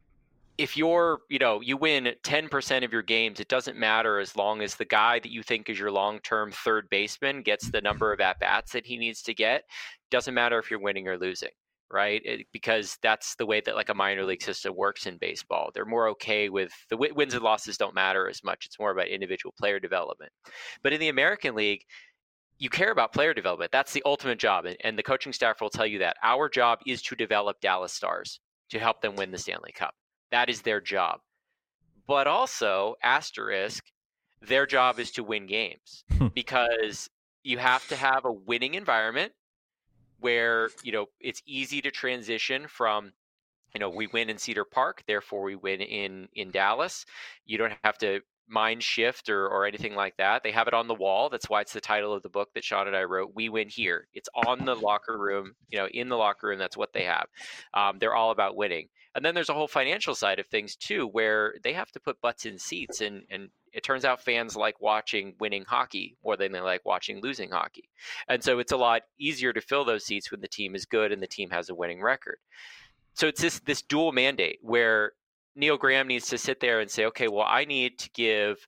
if you win 10% of your games, it doesn't matter as long as the guy that you think is your long-term third baseman gets the number of at-bats that he needs to get. Doesn't matter if you're winning or losing. Right? Because that's the way that like a minor league system works in baseball. They're more okay with the wins and losses don't matter as much. It's more about individual player development. But in the American League, you care about player development. That's the ultimate job. And the coaching staff will tell you that. Our job is to develop Dallas Stars to help them win the Stanley Cup. That is their job. But also, asterisk, their job is to win games because you have to have a winning environment where, it's easy to transition from, we win in Cedar Park, therefore we win in Dallas. You don't have to mind shift or anything like that. They have it on the wall. That's why it's the title of the book that Sean and I wrote, We Win Here. It's on the locker room, in the locker room. That's what they have. They're all about winning. And then there's a whole financial side of things too, where they have to put butts in seats. And it turns out fans like watching winning hockey more than they like watching losing hockey. And so it's a lot easier to fill those seats when the team is good and the team has a winning record. So it's this dual mandate where Neil Graham needs to sit there and say, okay, well, I need to give,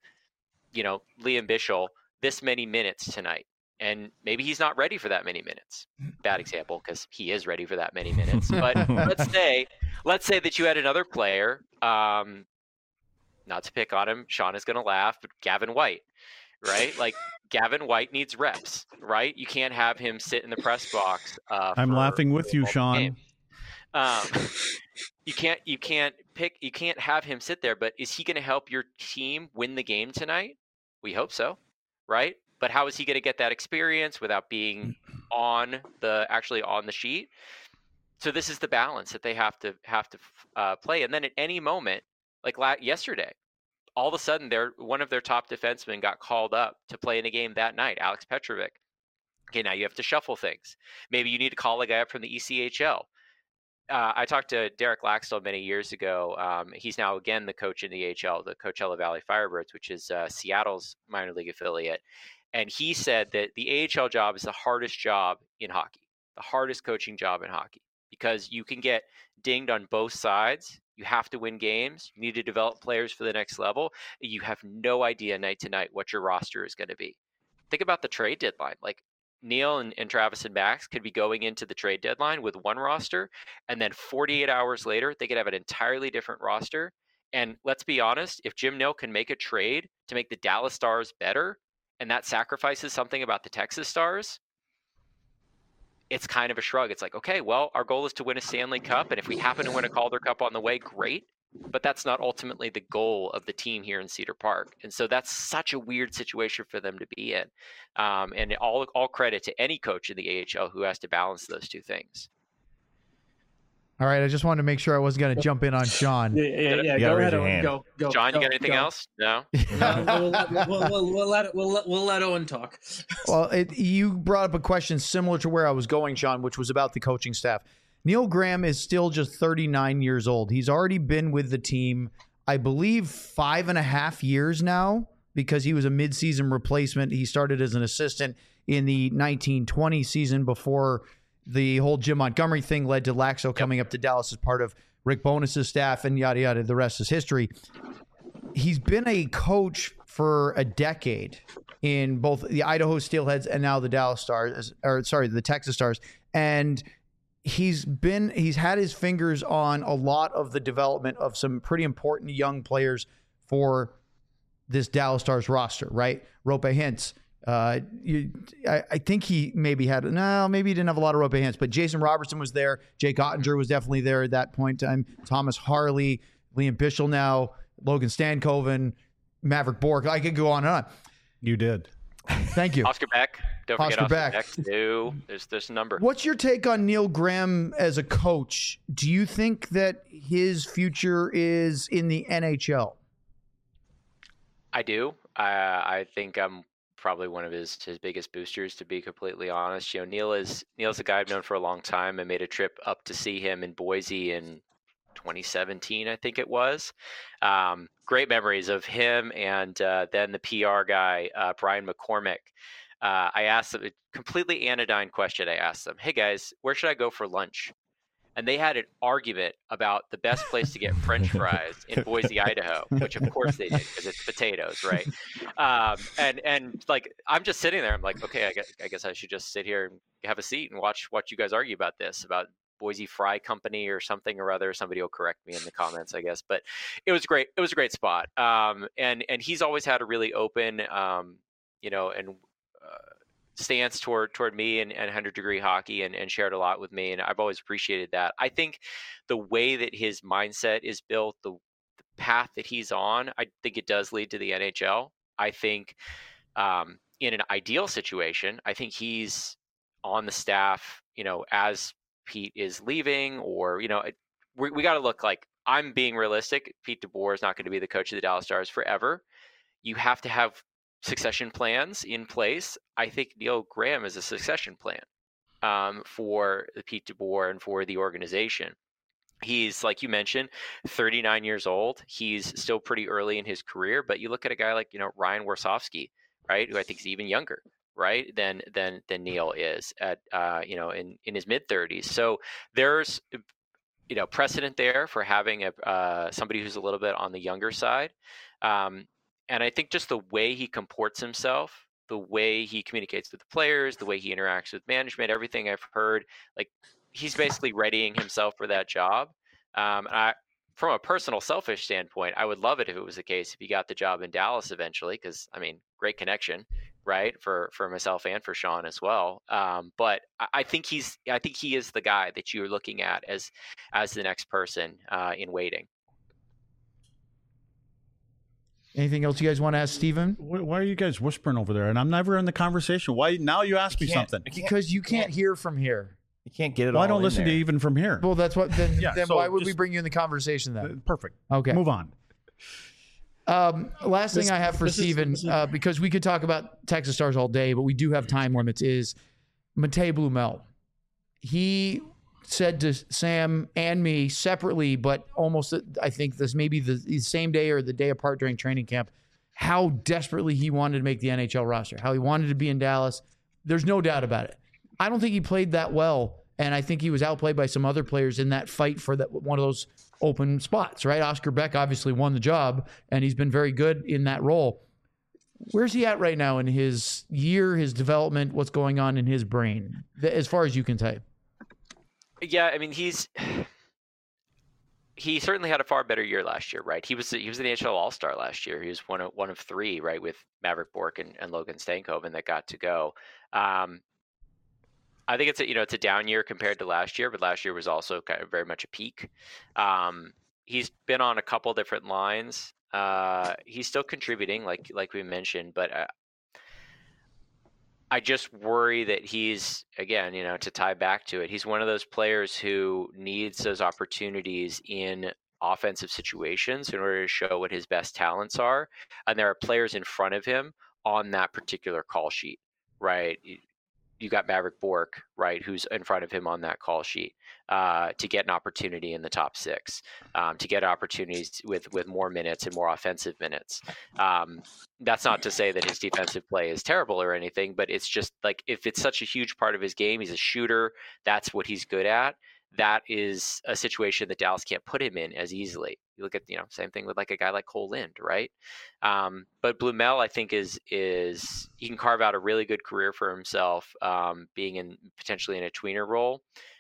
Liam Bichsel this many minutes tonight. And maybe he's not ready for that many minutes. Bad example, because he is ready for that many minutes. But let's say that you had another player, not to pick on him, Sean is going to laugh, but Gavin White, right? Like Gavin White needs reps, right? You can't have him sit in the press box. I'm laughing with you, Sean. You can't have him sit there, but is he going to help your team win the game tonight? We hope so, right? But how is he going to get that experience without being actually on the sheet? So this is the balance that they have to play. And then at any moment, like yesterday, all of a sudden, one of their top defensemen got called up to play in a game that night, Alex Petrovic. Okay, now you have to shuffle things. Maybe you need to call a guy up from the ECHL. I talked to Derek Laxdal many years ago. He's now again the coach in the AHL, the Coachella Valley Firebirds, which is Seattle's minor league affiliate. And he said that the AHL job is the hardest job in hockey, the hardest coaching job in hockey, because you can get dinged on both sides. You have to win games. You need to develop players for the next level. You have no idea night to night what your roster is going to be. Think about the trade deadline. Like Neil and Travis and Max could be going into the trade deadline with one roster, and then 48 hours later, they could have an entirely different roster. And let's be honest, if Jim Nill can make a trade to make the Dallas Stars better, and that sacrifices something about the Texas Stars, it's kind of a shrug. It's like, okay, well, our goal is to win a Stanley Cup, and if we happen to win a Calder Cup on the way, great. But that's not ultimately the goal of the team here in Cedar Park. And so that's such a weird situation for them to be in. And all credit to any coach in the AHL who has to balance those two things. All right, I just wanted to make sure I wasn't going to jump in on Sean. Yeah. Go ahead, go. John, you got anything else? No. We'll let Owen talk. Well, you brought up a question similar to where I was going, Sean, which was about the coaching staff. Neil Graham is still just 39 years old. He's already been with the team, I believe, 5.5 years now, because he was a midseason replacement. He started as an assistant in the 1920 season before the whole Jim Montgomery thing led to Laxo coming up to Dallas as part of Rick Bonus's staff, and yada, yada. The rest is history. He's been a coach for a decade in both the Idaho Steelheads and now the the Texas Stars. And he's had his fingers on a lot of the development of some pretty important young players for this Dallas Stars roster, right? Rope Hintz. I think he maybe maybe he didn't have a lot of Rope Hintz, but Jason Robertson was there. Jake Ottinger was definitely there at that point in time. Thomas Harley, Liam Bichel now, Logan Stankoven, Maverick Bork. I could go on and on. You did. Thank you. Oscar Beck. Don't forget Oscar Oscar Beck. Beck. No, there's a number. What's your take on Neil Graham as a coach? Do you think that his future is in the NHL? I do. I think I'm probably one of his biggest boosters, to be completely honest. Neil's a guy I've known for a long time. I made a trip up to see him in Boise in 2017, I think it was. Great memories of him, and then the PR guy, Brian McCormick. I asked them a completely anodyne question. I asked them, "Hey guys, where should I go for lunch?" And they had an argument about the best place to get French fries in Boise, Idaho, which of course they did because it's potatoes, right? And like I'm just sitting there. I'm like, okay, I guess I should just sit here and have a seat and watch you guys argue about this, about Boise Fry Company or something or other. Somebody will correct me in the comments, I guess. But it was great. It was a great spot. And he's always had a really open, stance toward me and 100 Degree Hockey and shared a lot with me. And I've always appreciated that. I think the way that his mindset is built, the path that he's on, I think it does lead to the NHL. I think in an ideal situation, I think he's on the staff, as Pete is leaving, or, we got to look like, I'm being realistic. Pete DeBoer is not going to be the coach of the Dallas Stars forever. You have to have succession plans in place. I think Neil Graham is a succession plan for the Pete DeBoer and for the organization. He's, like you mentioned, 39 years old. He's still pretty early in his career, but you look at a guy like, Ryan Warsofsky, right, who I think is even younger, right, than Neil is at in his mid 30s. So there's precedent there for having somebody who's a little bit on the younger side. And I think just the way he comports himself, the way he communicates with the players, the way he interacts with management, everything I've heard, like he's basically readying himself for that job. From a personal, selfish standpoint, I would love it if it was the case if he got the job in Dallas eventually, because great connection, right, for myself and for Sean as well. But I think he is the guy that you're looking at as the next person in waiting. Anything else you guys want to ask Steven? Why are you guys whispering over there? And I'm never in the conversation. Why now? You ask me something because you can't hear from here. You can't get it. Well, all I don't in listen there. to you even from here. Well, that's what. Then so why would we just- bring you in the conversation then? Perfect. Okay. Move on. Last thing I have for Steven, because we could talk about Texas Stars all day, but we do have time limits, is Matej Blumel. He said to Sam and me separately, but almost, I think this may be the same day or the day apart during training camp, how desperately he wanted to make the NHL roster, how he wanted to be in Dallas. There's no doubt about it. I don't think he played that well, and I think he was outplayed by some other players in that fight for that one of those open spots, right? Oscar Beck obviously won the job, and he's been very good in that role. Where's he at right now in his year, his development, what's going on in his brain, as far as you can say? Yeah, he certainly had a far better year last year, right? He was an NHL All-Star last year. He was one of three, right, with Maverick Bork and Logan Stankoven that got to go. I think it's a down year compared to last year, but last year was also kind of very much a peak. He's been on a couple different lines. He's still contributing, like we mentioned, but I just worry that he's, again, to tie back to it, he's one of those players who needs those opportunities in offensive situations in order to show what his best talents are. And there are players in front of him on that particular call sheet, right? you got Maverick Bork, right, who's in front of him on that call sheet to get an opportunity in the top 6, to get opportunities with more minutes and more offensive minutes. That's not to say that his defensive play is terrible or anything, but it's just like if it's such a huge part of his game, he's a shooter, that's what he's good at. That is a situation that Dallas can't put him in as easily. You look at, same thing with like a guy like Cole Lind, right? But Blumel, I think is he can carve out a really good career for himself, being potentially in a tweener role.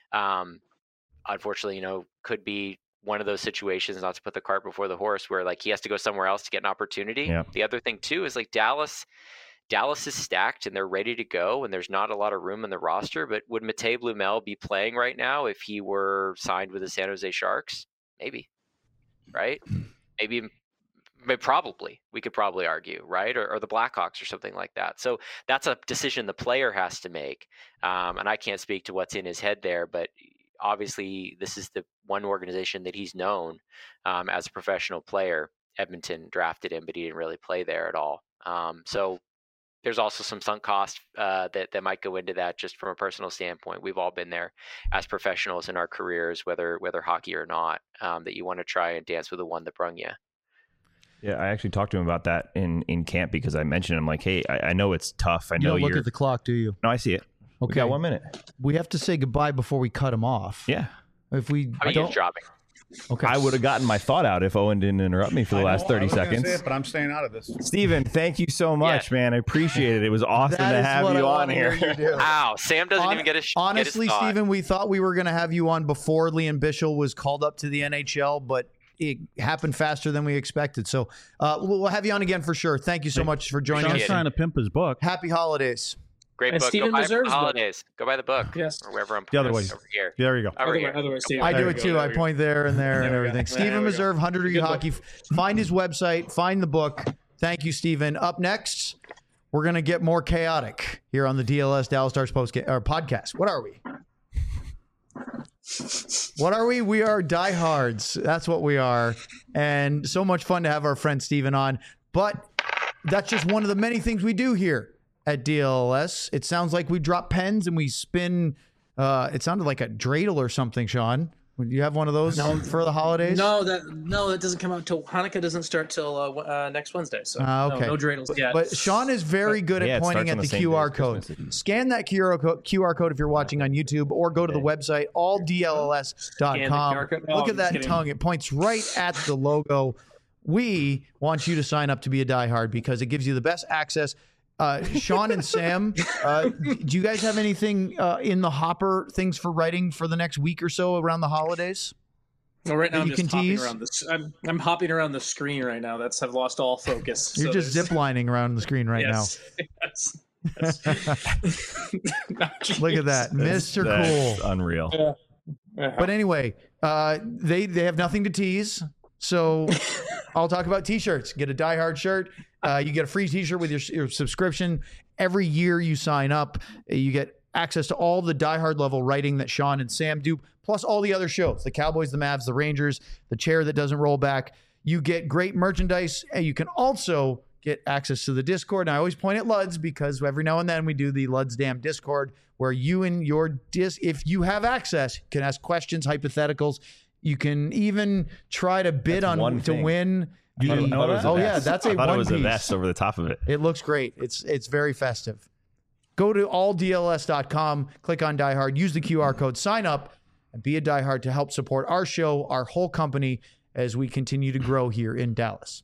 Unfortunately, could be one of those situations, not to put the cart before the horse, where like he has to go somewhere else to get an opportunity. Yeah. The other thing too is like Dallas is stacked and they're ready to go, and there's not a lot of room in the roster. But would Matej Blumel be playing right now if he were signed with the San Jose Sharks? Maybe, right? Maybe, probably. We could probably argue, right? Or the Blackhawks or something like that. So that's a decision the player has to make. And I can't speak to what's in his head there, but obviously this is the one organization that he's known as a professional player. Edmonton drafted him, but he didn't really play there at all. So there's also some sunk cost that might go into that just from a personal standpoint. We've all been there as professionals in our careers, whether hockey or not, that you want to try and dance with the one that brung you. Yeah, I actually talked to him about that in camp because I mentioned him like, hey, I know it's tough. I You know don't look you're. at the clock, do you? No, I see it. We Okay. got 1 minute. We have to say goodbye before we cut him off. Yeah. If we How are you don't, dropping? okay. I would have gotten my thought out if Owen didn't interrupt me for the last 30 seconds. But I'm staying out of this. Steven, thank you so much, man. I appreciate it. It was awesome That to is have what you I on wanna hear here. you do. Wow, Sam doesn't even get Honestly, get his thought. Steven, we thought we were going to have you on before Liam Bichel was called up to the NHL, but it happened faster than we expected. So we'll have you on again for sure. Thank you so much for joining Sean's us. trying to pimp his book. Happy holidays. Great And book. Steven Go buy it for deserves the book. holidays. Go buy the book. Yes. Or wherever I'm The other putting way. it. Over here. There you go. Over here. Otherwise, Steven. I do There it we too. go, I there we go. point there and there and There we go. everything. There Stephen we go. Meserve, 100 Good Hockey. Find his website. Find the book. Thank you, Stephen. Up next, we're going to get more chaotic here on the DLS Dallas Stars podcast. What are we? What are we? We are diehards. That's what we are. And so much fun to have our friend Stephen on. But that's just one of the many things we do here at DLS. It sounds like we drop pens and we spin. It sounded like a dreidel or something, Sean. Would you have one of those for the holidays? No, that doesn't come out till Hanukkah doesn't start till next Wednesday. So okay. no dreidels yet. But Sean is very good Yeah, at it pointing starts at on the the same day QR as code. Christmas. Scan that QR code if you're watching on YouTube, or go to the website, alldlls.com. Scan the QR code. Oh, Look at I'm that just kidding. tongue. It points right at the logo. We want you to sign up to be a diehard because it gives you the best access. Sean and Sam, do you guys have anything in the hopper, things for writing for the next week or so around the holidays? Well, right now I'm you just can hopping tease? around this. I'm hopping around the screen right now. I've lost all focus. You're So just there's- ziplining around the screen right yes, yes, yes. now. Look at that. Mr. That's Cool. unreal. But anyway, they have nothing to tease. So I'll talk about t-shirts. Get a Die Hard shirt. You get a free t-shirt with your subscription. Every year you sign up, you get access to all the Die Hard level writing that Sean and Sam do, plus all the other shows, the Cowboys, the Mavs, the Rangers, the chair that doesn't roll back. You get great merchandise, and you can also get access to the Discord. And I always point at Luds because every now and then we do the Luds Damn Discord where you and your if you have access, can ask questions, hypotheticals. You can even try to bid That's on one to thing. win. You didn't know that? Oh yeah, that's a I thought one it was a piece. vest over the top of it. It looks great. It's very festive. Go to alldls.com, click on Die Hard, use the QR code, sign up, and be a Die Hard to help support our show, our whole company, as we continue to grow here in Dallas.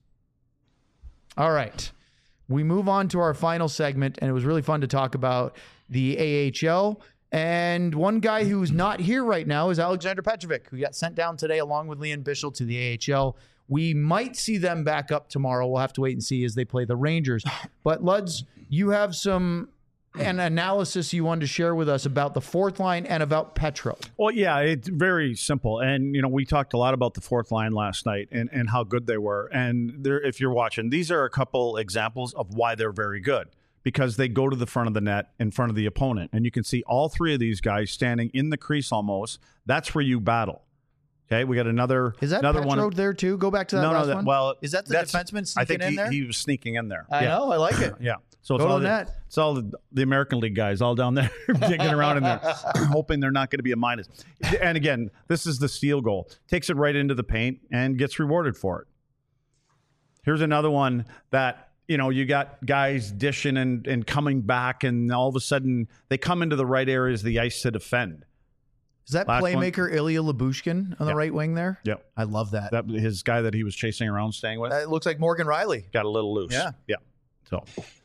All right. We move on to our final segment, and it was really fun to talk about the AHL. And one guy who's not here right now is Alexander Petrovic, who got sent down today along with Liam Bichel to the AHL. We might see them back up tomorrow. We'll have to wait and see as they play the Rangers. But Luds, you have an analysis you wanted to share with us about the fourth line and about Petro. Well, yeah, it's very simple. And, we talked a lot about the fourth line last night and how good they were. And if you're watching, these are a couple examples of why they're very good. Because they go to the front of the net in front of the opponent. And you can see all three of these guys standing in the crease almost. That's where you battle. Okay, we got another. Is that another Petro one? there too? Go back to that last one. Well, is that the defenseman I sneaking think in there? he was sneaking in there. I know. I like it. Yeah. So Go it's to all the net. It's all the American League guys all down there digging around in there, hoping they're not going to be a minus. And again, this is the steal goal. Takes it right into the paint and gets rewarded for it. Here's another one that, you got guys dishing and coming back, and all of a sudden they come into the right areas of the ice to defend. Is that Last playmaker Ilya Lyubushkin on the right wing there? Yep. I love that. That his guy that he was chasing around, staying with. It looks like Morgan Riley. Got a little loose. Yeah. So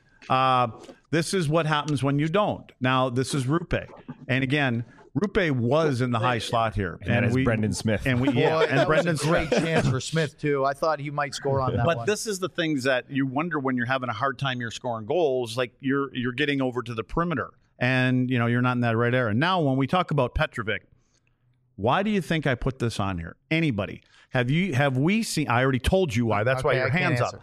this is what happens when you don't. Now, this is Rupe. And again, Rupe was in the high slot here. And it's Brendan Smith. And Boy, that Brendan was a great chance for Smith, too. I thought he might score on that But one. this is the things that you wonder when you're having a hard time you're scoring goals, like you're getting over to the perimeter and, you're not in that right area. Now, when we talk about Petrovic, why do you think I put this on here? Anybody? Have we seen? I already told you why. That's why your hands up.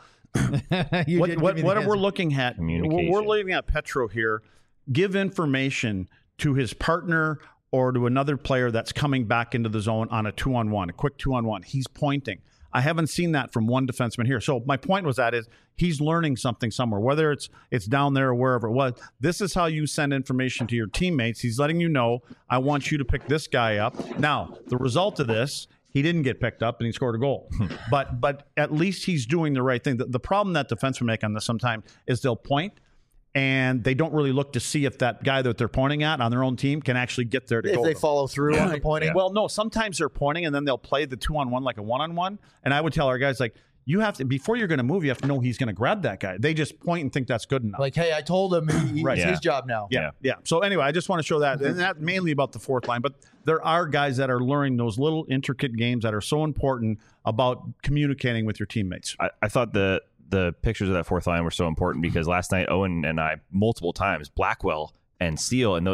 What are we looking at? Communication. We're looking at Petro here. Give information to his partner or to another player that's coming back into the zone on a 2-on-1, a quick 2-on-1. He's pointing. I haven't seen that from one defenseman here. So my point was that is he's learning something somewhere, whether it's down there or wherever it was. This is how you send information to your teammates. He's letting you know, I want you to pick this guy up. Now, the result of this, he didn't get picked up and he scored a goal. but at least he's doing the right thing. The problem that defensemen make on this sometimes is they'll point and they don't really look to see if that guy that they're pointing at on their own team can actually get there to if go. they follow through on the pointing. Yeah. Well, no, sometimes they're pointing and then they'll play the 2-on-1 like a 1-on-1. And I would tell our guys, like, you have to, before you're going to move, you have to know he's going to grab that guy. They just point and think that's good enough. Like, hey, I told him it's his job now. Yeah. So anyway, I just want to show that. And that's mainly about the fourth line. But there are guys that are learning those little intricate games that are so important about communicating with your teammates. I thought the pictures of that fourth line were so important because last night Owen and I multiple times, Blackwell and Steele, and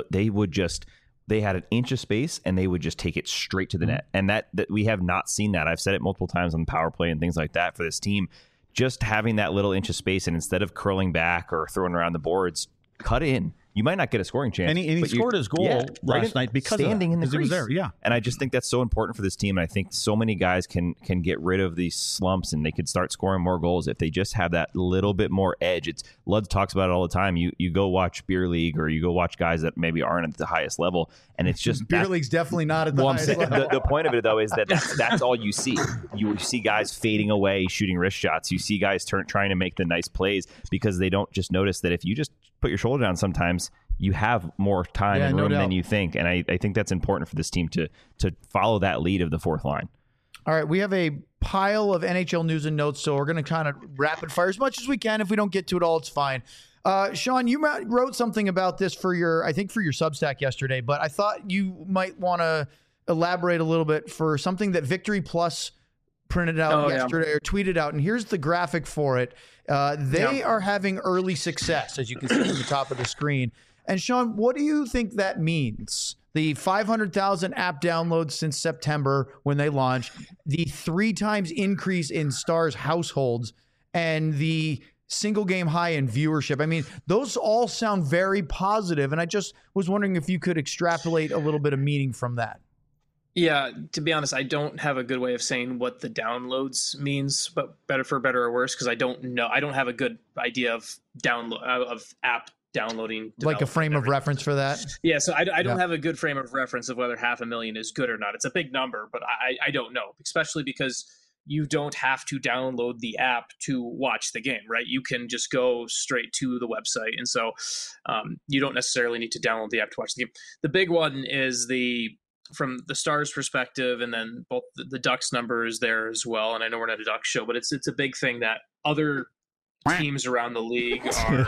they had an inch of space and they would just take it straight to the net. And that we have not seen that. I've said it multiple times on the power play and things like that for this team. Just having that little inch of space and instead of curling back or throwing around the boards, cut in. You might not get a scoring chance. And he scored his goal last night because standing in the crease. crease. He was there, yeah. And I just think that's so important for this team. And I think so many guys can get rid of these slumps and they could start scoring more goals if they just have that little bit more edge. Lud talks about it all the time. You go watch beer league or you go watch guys that maybe aren't at the highest level, and it's just beer league's definitely not at the highest level. The point of it though is that's all you see. You see guys fading away, shooting wrist shots. You see guys trying to make the nice plays because they don't just notice that if you just put your shoulder down sometimes, you have more time and room than you think. And I think that's important for this team to follow that lead of the fourth line. All right, we have a pile of NHL news and notes, so we're going to kind of rapid fire as much as we can. If we don't get to it all, it's fine. Sean, you wrote something about this for your Substack yesterday, but I thought you might want to elaborate a little bit for something that Victory Plus printed out yesterday or tweeted out. And here's the graphic for it. They are having early success, as you can see on the top of the screen. And Sean, what do you think that means? The 500,000 app downloads since September when they launched, the 3 times increase in Stars households, and the single game high in viewership. I mean, those all sound very positive. And I just was wondering if you could extrapolate a little bit of meaning from that. Yeah, to be honest, I don't have a good way of saying what the downloads means, but for better or worse, because I don't know. I don't have a good idea of app downloading, like a frame of reference for that. Yeah, so I don't have a good frame of reference of whether 500,000 is good or not. It's a big number, but I don't know, especially because you don't have to download the app to watch the game, right? You can just go straight to the website, and so you don't necessarily need to download the app to watch the game. The big one is from the Stars perspective, and then both the Ducks number is there as well. And I know we're not a Ducks show, but it's a big thing that other teams around the league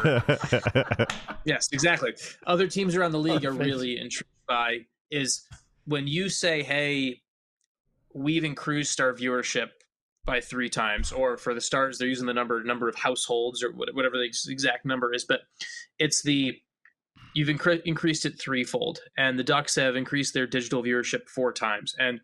are. Yes, exactly. Other teams around the league are really intrigued by is when you say, "Hey, we've increased our viewership by 3 times," or for the Stars, they're using the number of households or whatever the exact number is, but it's you've increased it 3-fold, and the Ducks have increased their digital viewership 4 times, and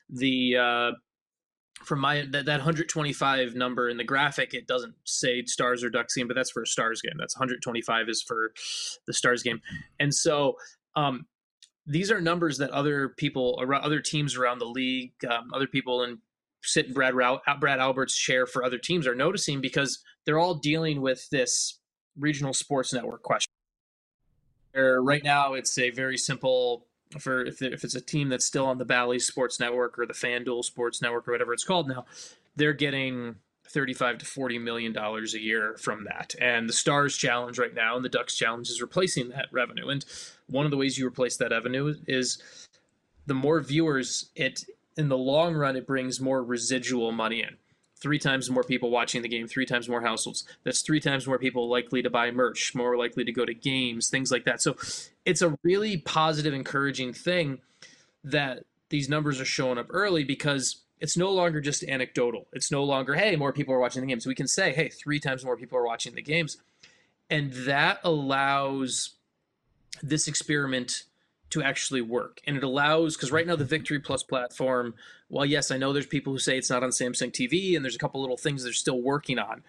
from that 125 number in the graphic, it doesn't say Stars or Ducks game, but that's for a Stars game. That's 125 is for the Stars game. And so these are numbers that other people, other teams around the league, other people in Brad Albert's chair for other teams are noticing, because they're all dealing with this regional sports network question. Right now, it's a very simple, if it's a team that's still on the Bally Sports Network or the FanDuel Sports Network or whatever it's called now, they're getting $35 to $40 million a year from that. And the Stars Challenge right now and the Ducks Challenge is replacing that revenue. And one of the ways you replace that revenue is the more viewers, in the long run, it brings more residual money in. 3 times more people watching the game, 3 times more households. That's 3 times more people likely to buy merch, more likely to go to games, things like that. So it's a really positive, encouraging thing that these numbers are showing up early, because it's no longer just anecdotal. It's no longer, hey, more people are watching the games. We can say, hey, 3 times more people are watching the games. And that allows this experiment to actually work. And it allows, because right now the Victory Plus platform, while yes, I know there's people who say it's not on Samsung TV, and there's a couple little things they're still working on,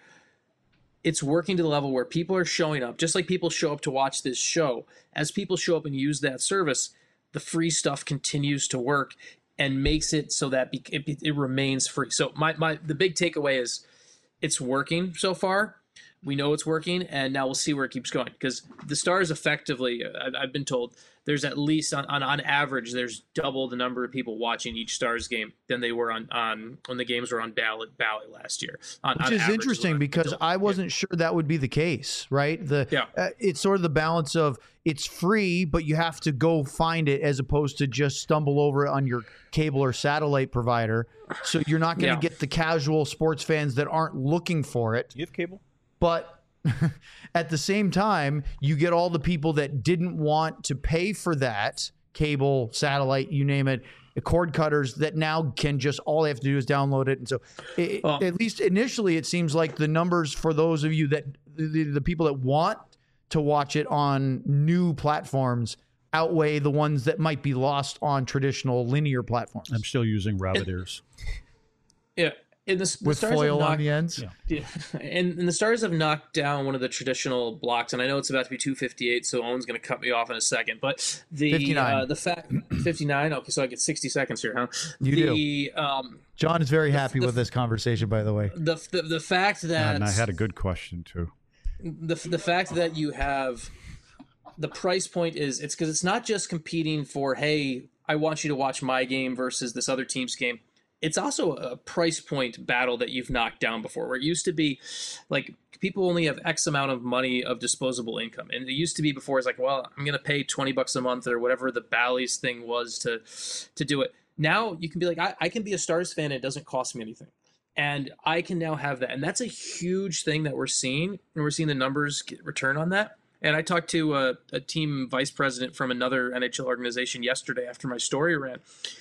it's working to the level where people are showing up, just like people show up to watch this show. As people show up and use that service, the free stuff continues to work and makes it so that it remains free. So the big takeaway is it's working so far. We know it's working, and now we'll see where it keeps going, because the Stars effectively, I've been told, there's at least on average, there's double the number of people watching each Stars game than they were on when the games were on Bally last year. Which is interesting, because I wasn't sure that would be the case, right? It's sort of the balance of it's free, but you have to go find it, as opposed to just stumble over it on your cable or satellite provider. So you're not going to get the casual sports fans that aren't looking for it. Do you have cable? But at the same time, you get all the people that didn't want to pay for that, cable, satellite, you name it, cord cutters, that now can just, all they have to do is download it. And so at least initially, it seems like the numbers for those of you that, the people that want to watch it on new platforms outweigh the ones that might be lost on traditional linear platforms. I'm still using rabbit ears. Yeah. With foil on the ends. Yeah. And the Stars have knocked down one of the traditional blocks, and I know it's about to be 2:58, so Owen's going to cut me off in a second. But the 59. The fact 59. Okay, so I get 60 seconds here, huh? You do. John is very happy with this conversation, by the way. The fact that, and I had a good question too. The fact that you have the price point is, it's because it's not just competing for, hey, I want you to watch my game versus this other team's game. It's also a price point battle that you've knocked down before, where it used to be like people only have X amount of money of disposable income. And it used to be before, it's like, well, I'm going to pay $20 a month or whatever the Bally's thing was to do it. Now you can be like, I can be a Stars fan and it doesn't cost me anything. And I can now have that. And that's a huge thing that we're seeing. And we're seeing the numbers return on that. And I talked to a team vice president from another NHL organization yesterday after my story ran.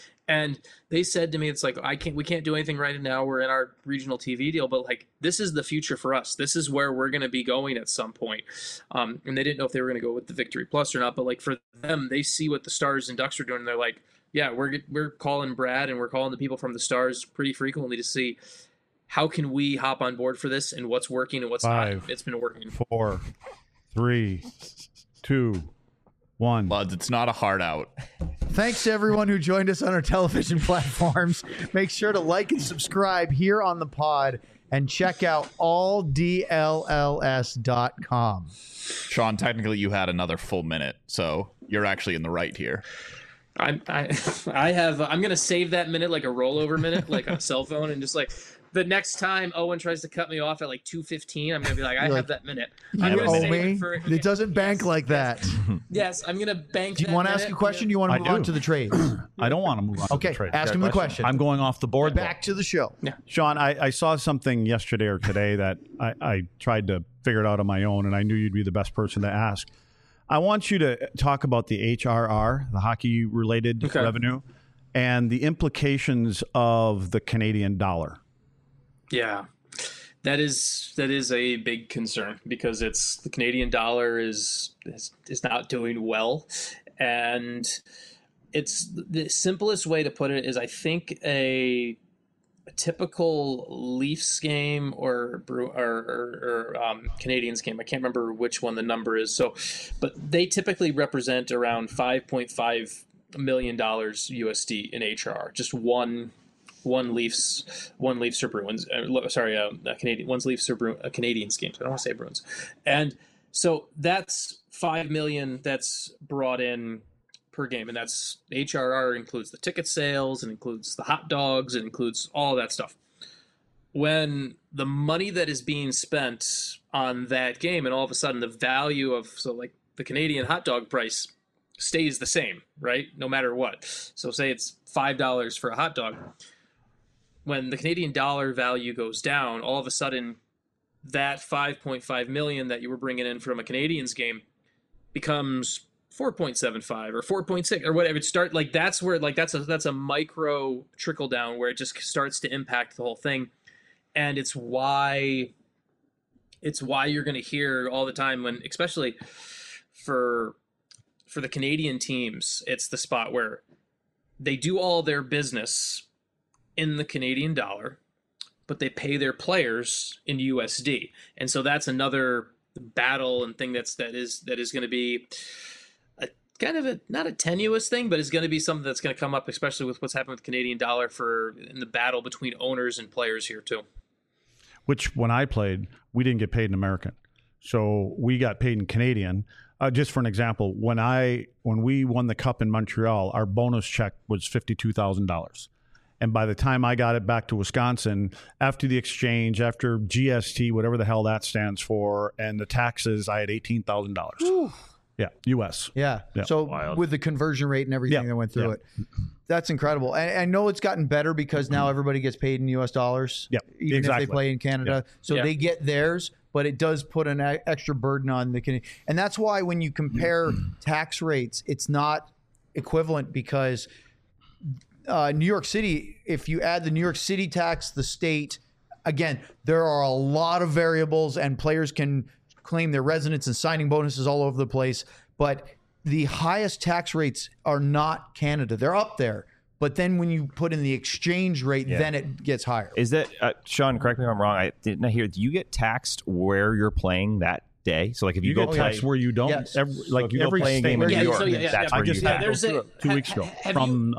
And they said to me, it's like, we can't do anything right now. We're in our regional TV deal, but like, this is the future for us. This is where we're going to be going at some point. And they didn't know if they were going to go with the Victory Plus or not, but like for them, they see what the Stars and Ducks are doing. And they're like, yeah, we're calling Brad and we're calling the people from the Stars pretty frequently to see how can we hop on board for this and what's working and what's 5, not. It's been working. 4, 3, 2, 1. Lads, it's not a hard out. Thanks to everyone who joined us on our television platforms. Make sure to like and subscribe here on the pod, and check out alldlls.com. Sean, technically you had another full minute, so you're actually in the right here. I'm going to save that minute like a rollover minute, like on a cell phone, and just like the next time Owen tries to cut me off at like 2:15, I'm going to be like, I have that minute. I'm You gonna owe save me? it for- It doesn't bank like that. Yes, I'm going to bank. Do you want to ask a question? You want to I move on do. to the trades? I don't want to move on Okay, to the trade. ask him the question. I'm going off the board. Back to the show. Sean, I saw something yesterday or today that I tried to figure it out on my own, and I knew you'd be the best person to ask. I want you to talk about the HRR, the hockey-related revenue, and the implications of the Canadian dollar. Yeah, that is a big concern, because the Canadian dollar is not doing well, and it's the simplest way to put it is, I think a typical Leafs game or Canadians game, I can't remember which one the number is. So, but they typically represent around 5.5 $1 million USD in HRR. Just one Leafs or Bruins. Canadian one's Leafs or Canadians games. I don't want to say Bruins, and so that's $5 million that's brought in per game, and that's HRR includes the ticket sales, and includes the hot dogs, and includes all that stuff. When the money that is being spent on that game, and all of a sudden the value of the Canadian hot dog price stays the same, right? No matter what. So say it's $5 for a hot dog. When the Canadian dollar value goes down, all of a sudden that 5.5 million that you were bringing in from a Canadians game becomes 4.75 or 4.6 or whatever. That's where that's a micro trickle down where it just starts to impact the whole thing. And it's why you're going to hear all the time when, especially for the Canadian teams, it's the spot where they do all their business in the Canadian dollar, but they pay their players in USD. And so that's another battle and thing that is going to be a kind of a, not a tenuous thing, but it's going to be something that's going to come up, especially with what's happened with the Canadian dollar in the battle between owners and players here too. Which when I played, we didn't get paid in American. So we got paid in Canadian. Just for an example, when we won the Cup in Montreal, our bonus check was $52,000. And by the time I got it back to Wisconsin, after the exchange, after GST, whatever the hell that stands for, and the taxes, I had $18,000. Yeah, U.S. Yeah. So wild. With the conversion rate and everything that went through it, that's incredible. And I know it's gotten better because now everybody gets paid in U.S. dollars, even if they play in Canada. So they get theirs, but it does put an extra burden on the Canadian. And that's why when you compare tax rates, it's not equivalent because New York City, if you add the New York City tax, the state, again, there are a lot of variables and players can claim their residence and signing bonuses all over the place. But the highest tax rates are not Canada. They're up there. But then when you put in the exchange rate, then it gets higher. Is that, Sean, correct me if I'm wrong, I didn't hear, do you get taxed where you're playing that day? So like if you go get taxed where you don't, Yes. every playing game in New York, that's where I just you had tax. to go through it 2 weeks ago from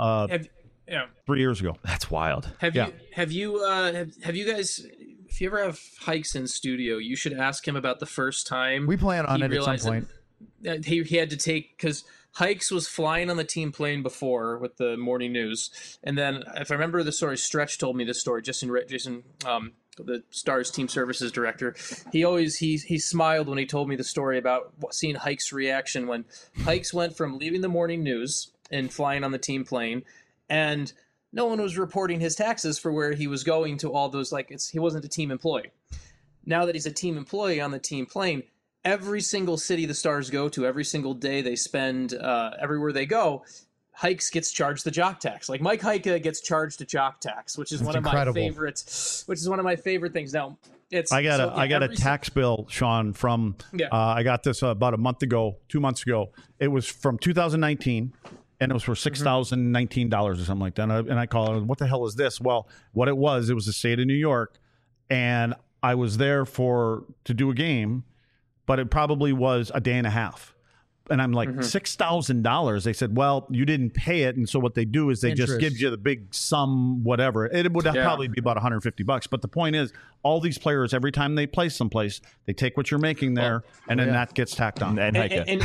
3 years ago. That's wild. Have you guys, if you ever have Hikes in studio, you should ask him about the first time We plan on it at some point. He had to take, because Hikes was flying on the team plane before with the morning news, and then if I remember the story, Stretch told me this story. Jason, the Stars team services director, he smiled when he told me the story about seeing Hikes' reaction when Hikes went from leaving the morning news and flying on the team plane, and no one was reporting his taxes for where he was going to all those, he wasn't a team employee. Now that he's a team employee on the team plane, every single city the Stars go to, every single day they spend, everywhere they go, Hikes gets charged the jock tax. Like Mike Heika gets charged a jock tax, which is one of my favorites. Which is one of my favorite things. Now, I got a tax bill, Sean, from I got this about 2 months ago. It was from 2019. And it was for $6,019 or something like that. And I call it, what the hell is this? Well, what it was the state of New York. And I was there to do a game, but it probably was a day and a half. And I'm like, $6,000. They said, well, you didn't pay it. And so what they do is they just give you the big sum, whatever. It would probably be about $150. But the point is, all these players, every time they play someplace, they take what you're making there, and then that gets tacked on. And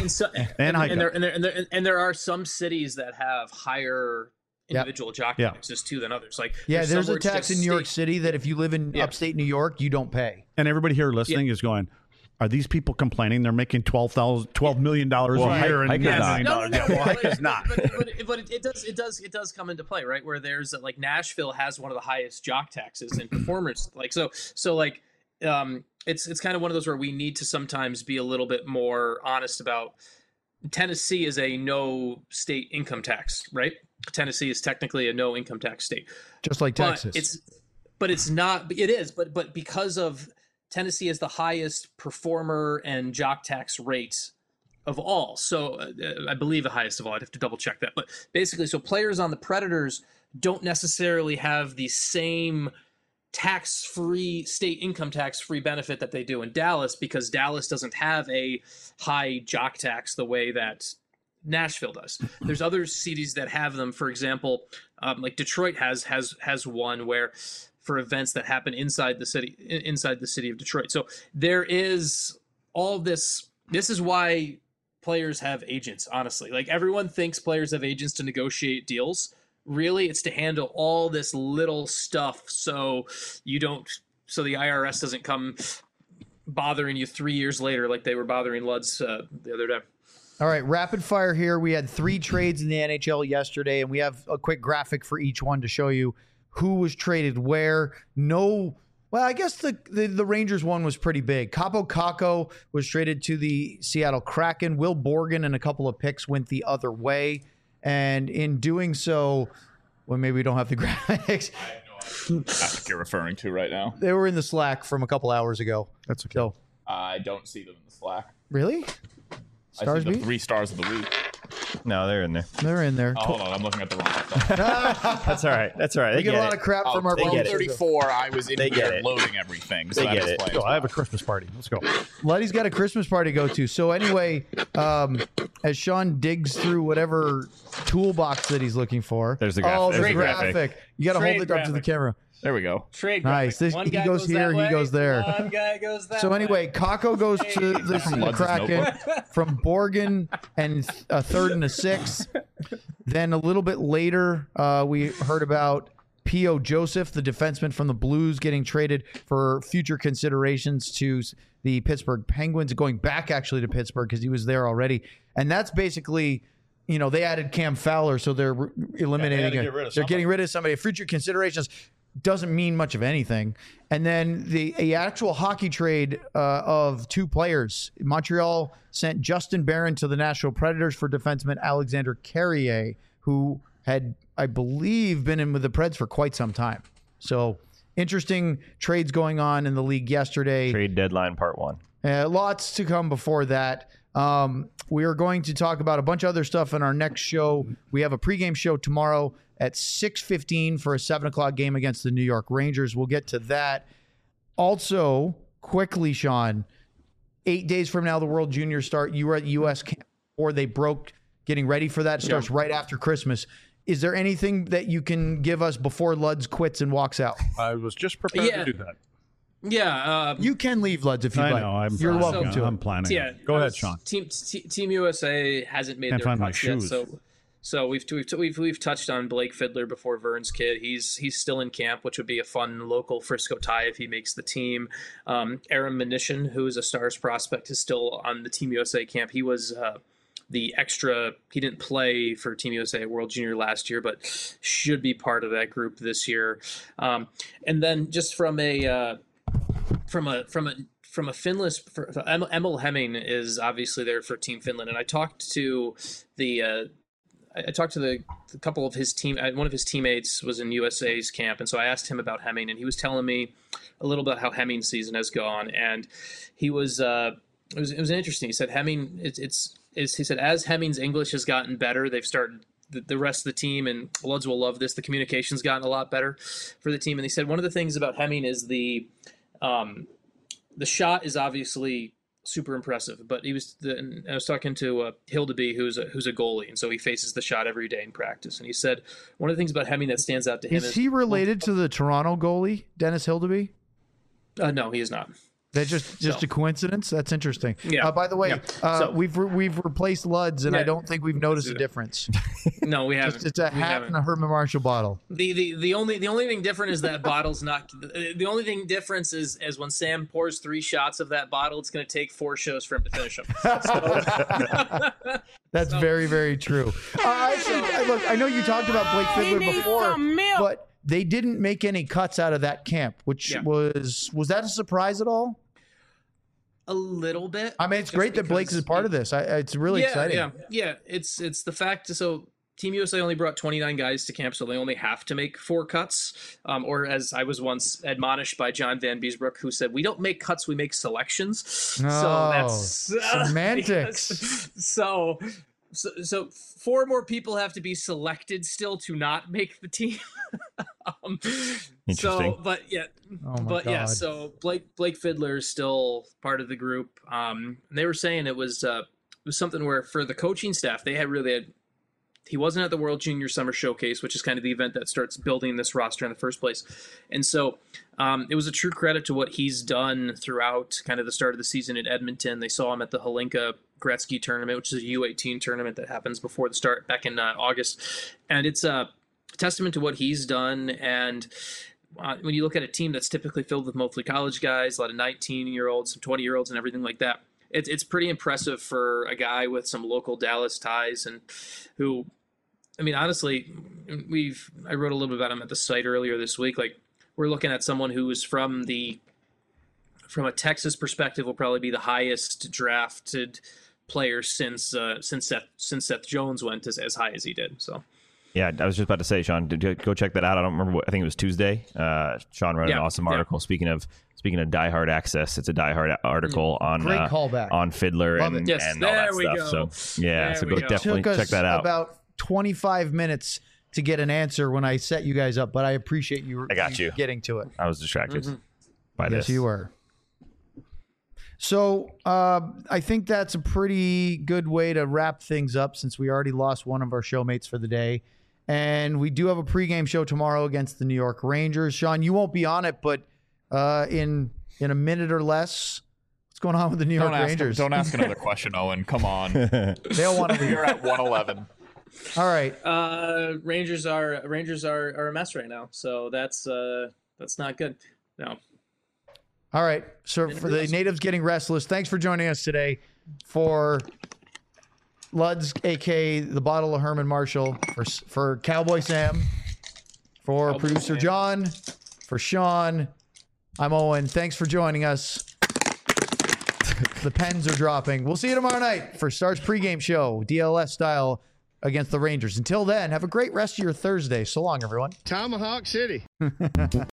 there are some cities that have higher individual jock taxes too than others. There's a tax in New York City that if you live in upstate New York, you don't pay. And everybody here listening is going, are these people complaining they're making $12 million a year? And Hike is not. But it does come into play, right? Where there's Nashville has one of the highest jock taxes and performers. It's kind of one of those where we need to sometimes be a little bit more honest about. Tennessee is a no state income tax, right? Tennessee is technically a no income tax state, just like Texas. It's not. It is, but because of Tennessee is the highest performer and jock tax rate of all. So I believe the highest of all. I'd have to double check that. But basically, so players on the Predators don't necessarily have the same tax-free, state income tax-free benefit that they do in Dallas, because Dallas doesn't have a high jock tax the way that Nashville does. There's other cities that have them. For example, like Detroit has one where for events that happen inside the city of Detroit. So there is all this. This is why players have agents. Honestly, like everyone thinks players have agents to negotiate deals. Really, it's to handle all this little stuff so the IRS doesn't come bothering you 3 years later like they were bothering Luds the other day. All right, rapid fire here. We had 3 trades in the NHL yesterday, and we have a quick graphic for each one to show you who was traded where. Well, I guess the Rangers one was pretty big. Kaapo Kakko was traded to the Seattle Kraken. Will Borgen and a couple of picks went the other way. And in doing so, well, maybe we don't have the graphics. What you're referring to right now? They were in the Slack from a couple hours ago. That's okay. So, I don't see them in the Slack. really? I see the Beat? 3 stars of the week. No, they're in there. They're in there. Oh, hold on, I'm looking at the wrong stuff. That's all right. That's all right. We They get a lot it. of crap from our they get it. 34, I was in They get here it. loading everything. So They that get it. explains Go, I have why. a Christmas party. Let's go. Letty's got a Christmas party to go to. So anyway, as Sean digs through whatever toolbox that he's looking for. There's the graphic. Oh, There's the the graphic. graphic. You got to hold Trade it up to the graphic. camera. There we go. Trade Nice. graphic. This- One he guy goes here, he that goes way, there. One guy goes that So way. anyway, Kakko goes to the Ludz's Kraken notebook. from Borgen and a third and a sixth. Then a little bit later, we heard about P.O. Joseph, the defenseman from the Blues, getting traded for future considerations to the Pittsburgh Penguins, going back actually to Pittsburgh because he was there already. And that's basically, they added Cam Fowler, so they're eliminating get it. rid of They're somebody. getting rid of somebody. Future considerations doesn't mean much of anything. And then the actual hockey trade of 2 players. Montreal sent Justin Barron to the Nashville Predators for defenseman Alexander Carrier, who had, I believe, been in with the Preds for quite some time. So interesting trades going on in the league yesterday. Trade deadline part 1. Lots to come before that. We are going to talk about a bunch of other stuff in our next show. We have a pregame show tomorrow at 6:15 for a 7 o'clock game against the New York Rangers. We'll get to that. Also, quickly, Sean, 8 days from now, the World Juniors start. You were at U.S. camp, or they broke getting ready for that. It starts right after Christmas. Is there anything that you can give us before Luds quits and walks out? I was just prepared Yeah. to do that. Yeah. You can leave, Luds, if you'd I like. know. I'm You're planning. welcome to I'm it. planning. Yeah. Go ahead, Sean. Team USA hasn't made Can't their find my cuts yet, shoes. so we've touched on Blake Fiddler before, Vern's kid. He's still in camp, which would be a fun local Frisco tie if he makes the team. Aaron Mnuchin, who is a Stars prospect, is still on the Team USA camp. He was the extra. He didn't play for Team USA at World Junior last year, but should be part of that group this year. And then just from a Finland, Emil Hemming is obviously there for Team Finland, and I talked to the couple of his team. One of his teammates was in USA's camp, and so I asked him about Hemming, and he was telling me a little bit how Hemming's season has gone, and he was it was interesting. He said Hemming he said as Hemming's English has gotten better, they've started. The rest of the team, and Luds will love this, the communication's gotten a lot better for the team. And they said one of the things about Hemming is the shot is obviously super impressive, but I was talking to Hildeby, who's a goalie, and so he faces the shot every day in practice. And he said one of the things about Hemming that stands out to him Is he related to the Toronto goalie, Dennis Hildeby? No, he is not. That just a coincidence? That's interesting. Yeah. By the way, Yeah. we've replaced Luds, and I Yeah. don't think we've noticed a that. difference. No, we haven't. It's a We hat haven't. and a Herman Marshall bottle. The only thing different is that bottle's not. The only thing difference is when Sam pours 3 shots of that bottle, it's going to take 4 shows for him to finish them. That's very, very true. Look, I know you talked about Blake Fiddler before, but they didn't make any cuts out of that camp, which Yeah. was that a surprise at all? A little bit. I mean, it's Just great that Blake because is part of this. It's really exciting. Yeah. It's the fact. So Team USA only brought 29 guys to camp, so they only have to make 4 cuts. Or as I was once admonished by John Van Beesbrook, who said, "We don't make cuts, we make selections." So that's semantics. So 4 more people have to be selected still to not make the team. Interesting. So, but yeah, Oh my but yeah, God. so Blake Fiddler is still part of the group. They were saying it was was something where for the coaching staff, they had he wasn't at the World Junior Summer Showcase, which is kind of the event that starts building this roster in the first place. And so it was a true credit to what he's done throughout kind of the start of the season in Edmonton. They saw him at the Holinka Gretzky tournament, which is a U18 tournament that happens before the start back in August. And it's a testament to what he's done. And when you look at a team that's typically filled with mostly college guys, a lot of 19-year-olds, some 20-year-olds and everything like that, it's pretty impressive for a guy with some local Dallas ties and who, I mean, honestly, I wrote a little bit about him at the site earlier this week. Like, we're looking at someone who is from a Texas perspective, will probably be the highest drafted player since Seth Jones went as high as he did. So. Yeah, I was just about to say, Sean, go check that out. I don't remember I think it was Tuesday. Sean wrote an awesome article. Speaking of Die Hard Access, it's a Die Hard article on Great callback on Fiddler and all that stuff. So definitely check that out. About 25 minutes to get an answer when I set you guys up, but I appreciate you. I got you getting to it. I was distracted by this. Yes, you were. So I think that's a pretty good way to wrap things up since we already lost one of our showmates for the day. And we do have a pregame show tomorrow against the New York Rangers. Sean, you won't be on it, but in a minute or less, what's going on with the New York Rangers? Don't ask another question, Owen. Come on. They'll want to leave. You're at 111. All right. Rangers are a mess right now, so that's not good. No. All right. So for the natives getting restless, thanks for joining us today. For Luds, a.k.a. the bottle of Herman Marshall, for Cowboy Sam, for producer John, for Sean, I'm Owen. Thanks for joining us. The pens are dropping. We'll see you tomorrow night for Stars pregame show, DLS style, against the Rangers. Until then, have a great rest of your Thursday. So long, everyone. Tomahawk City.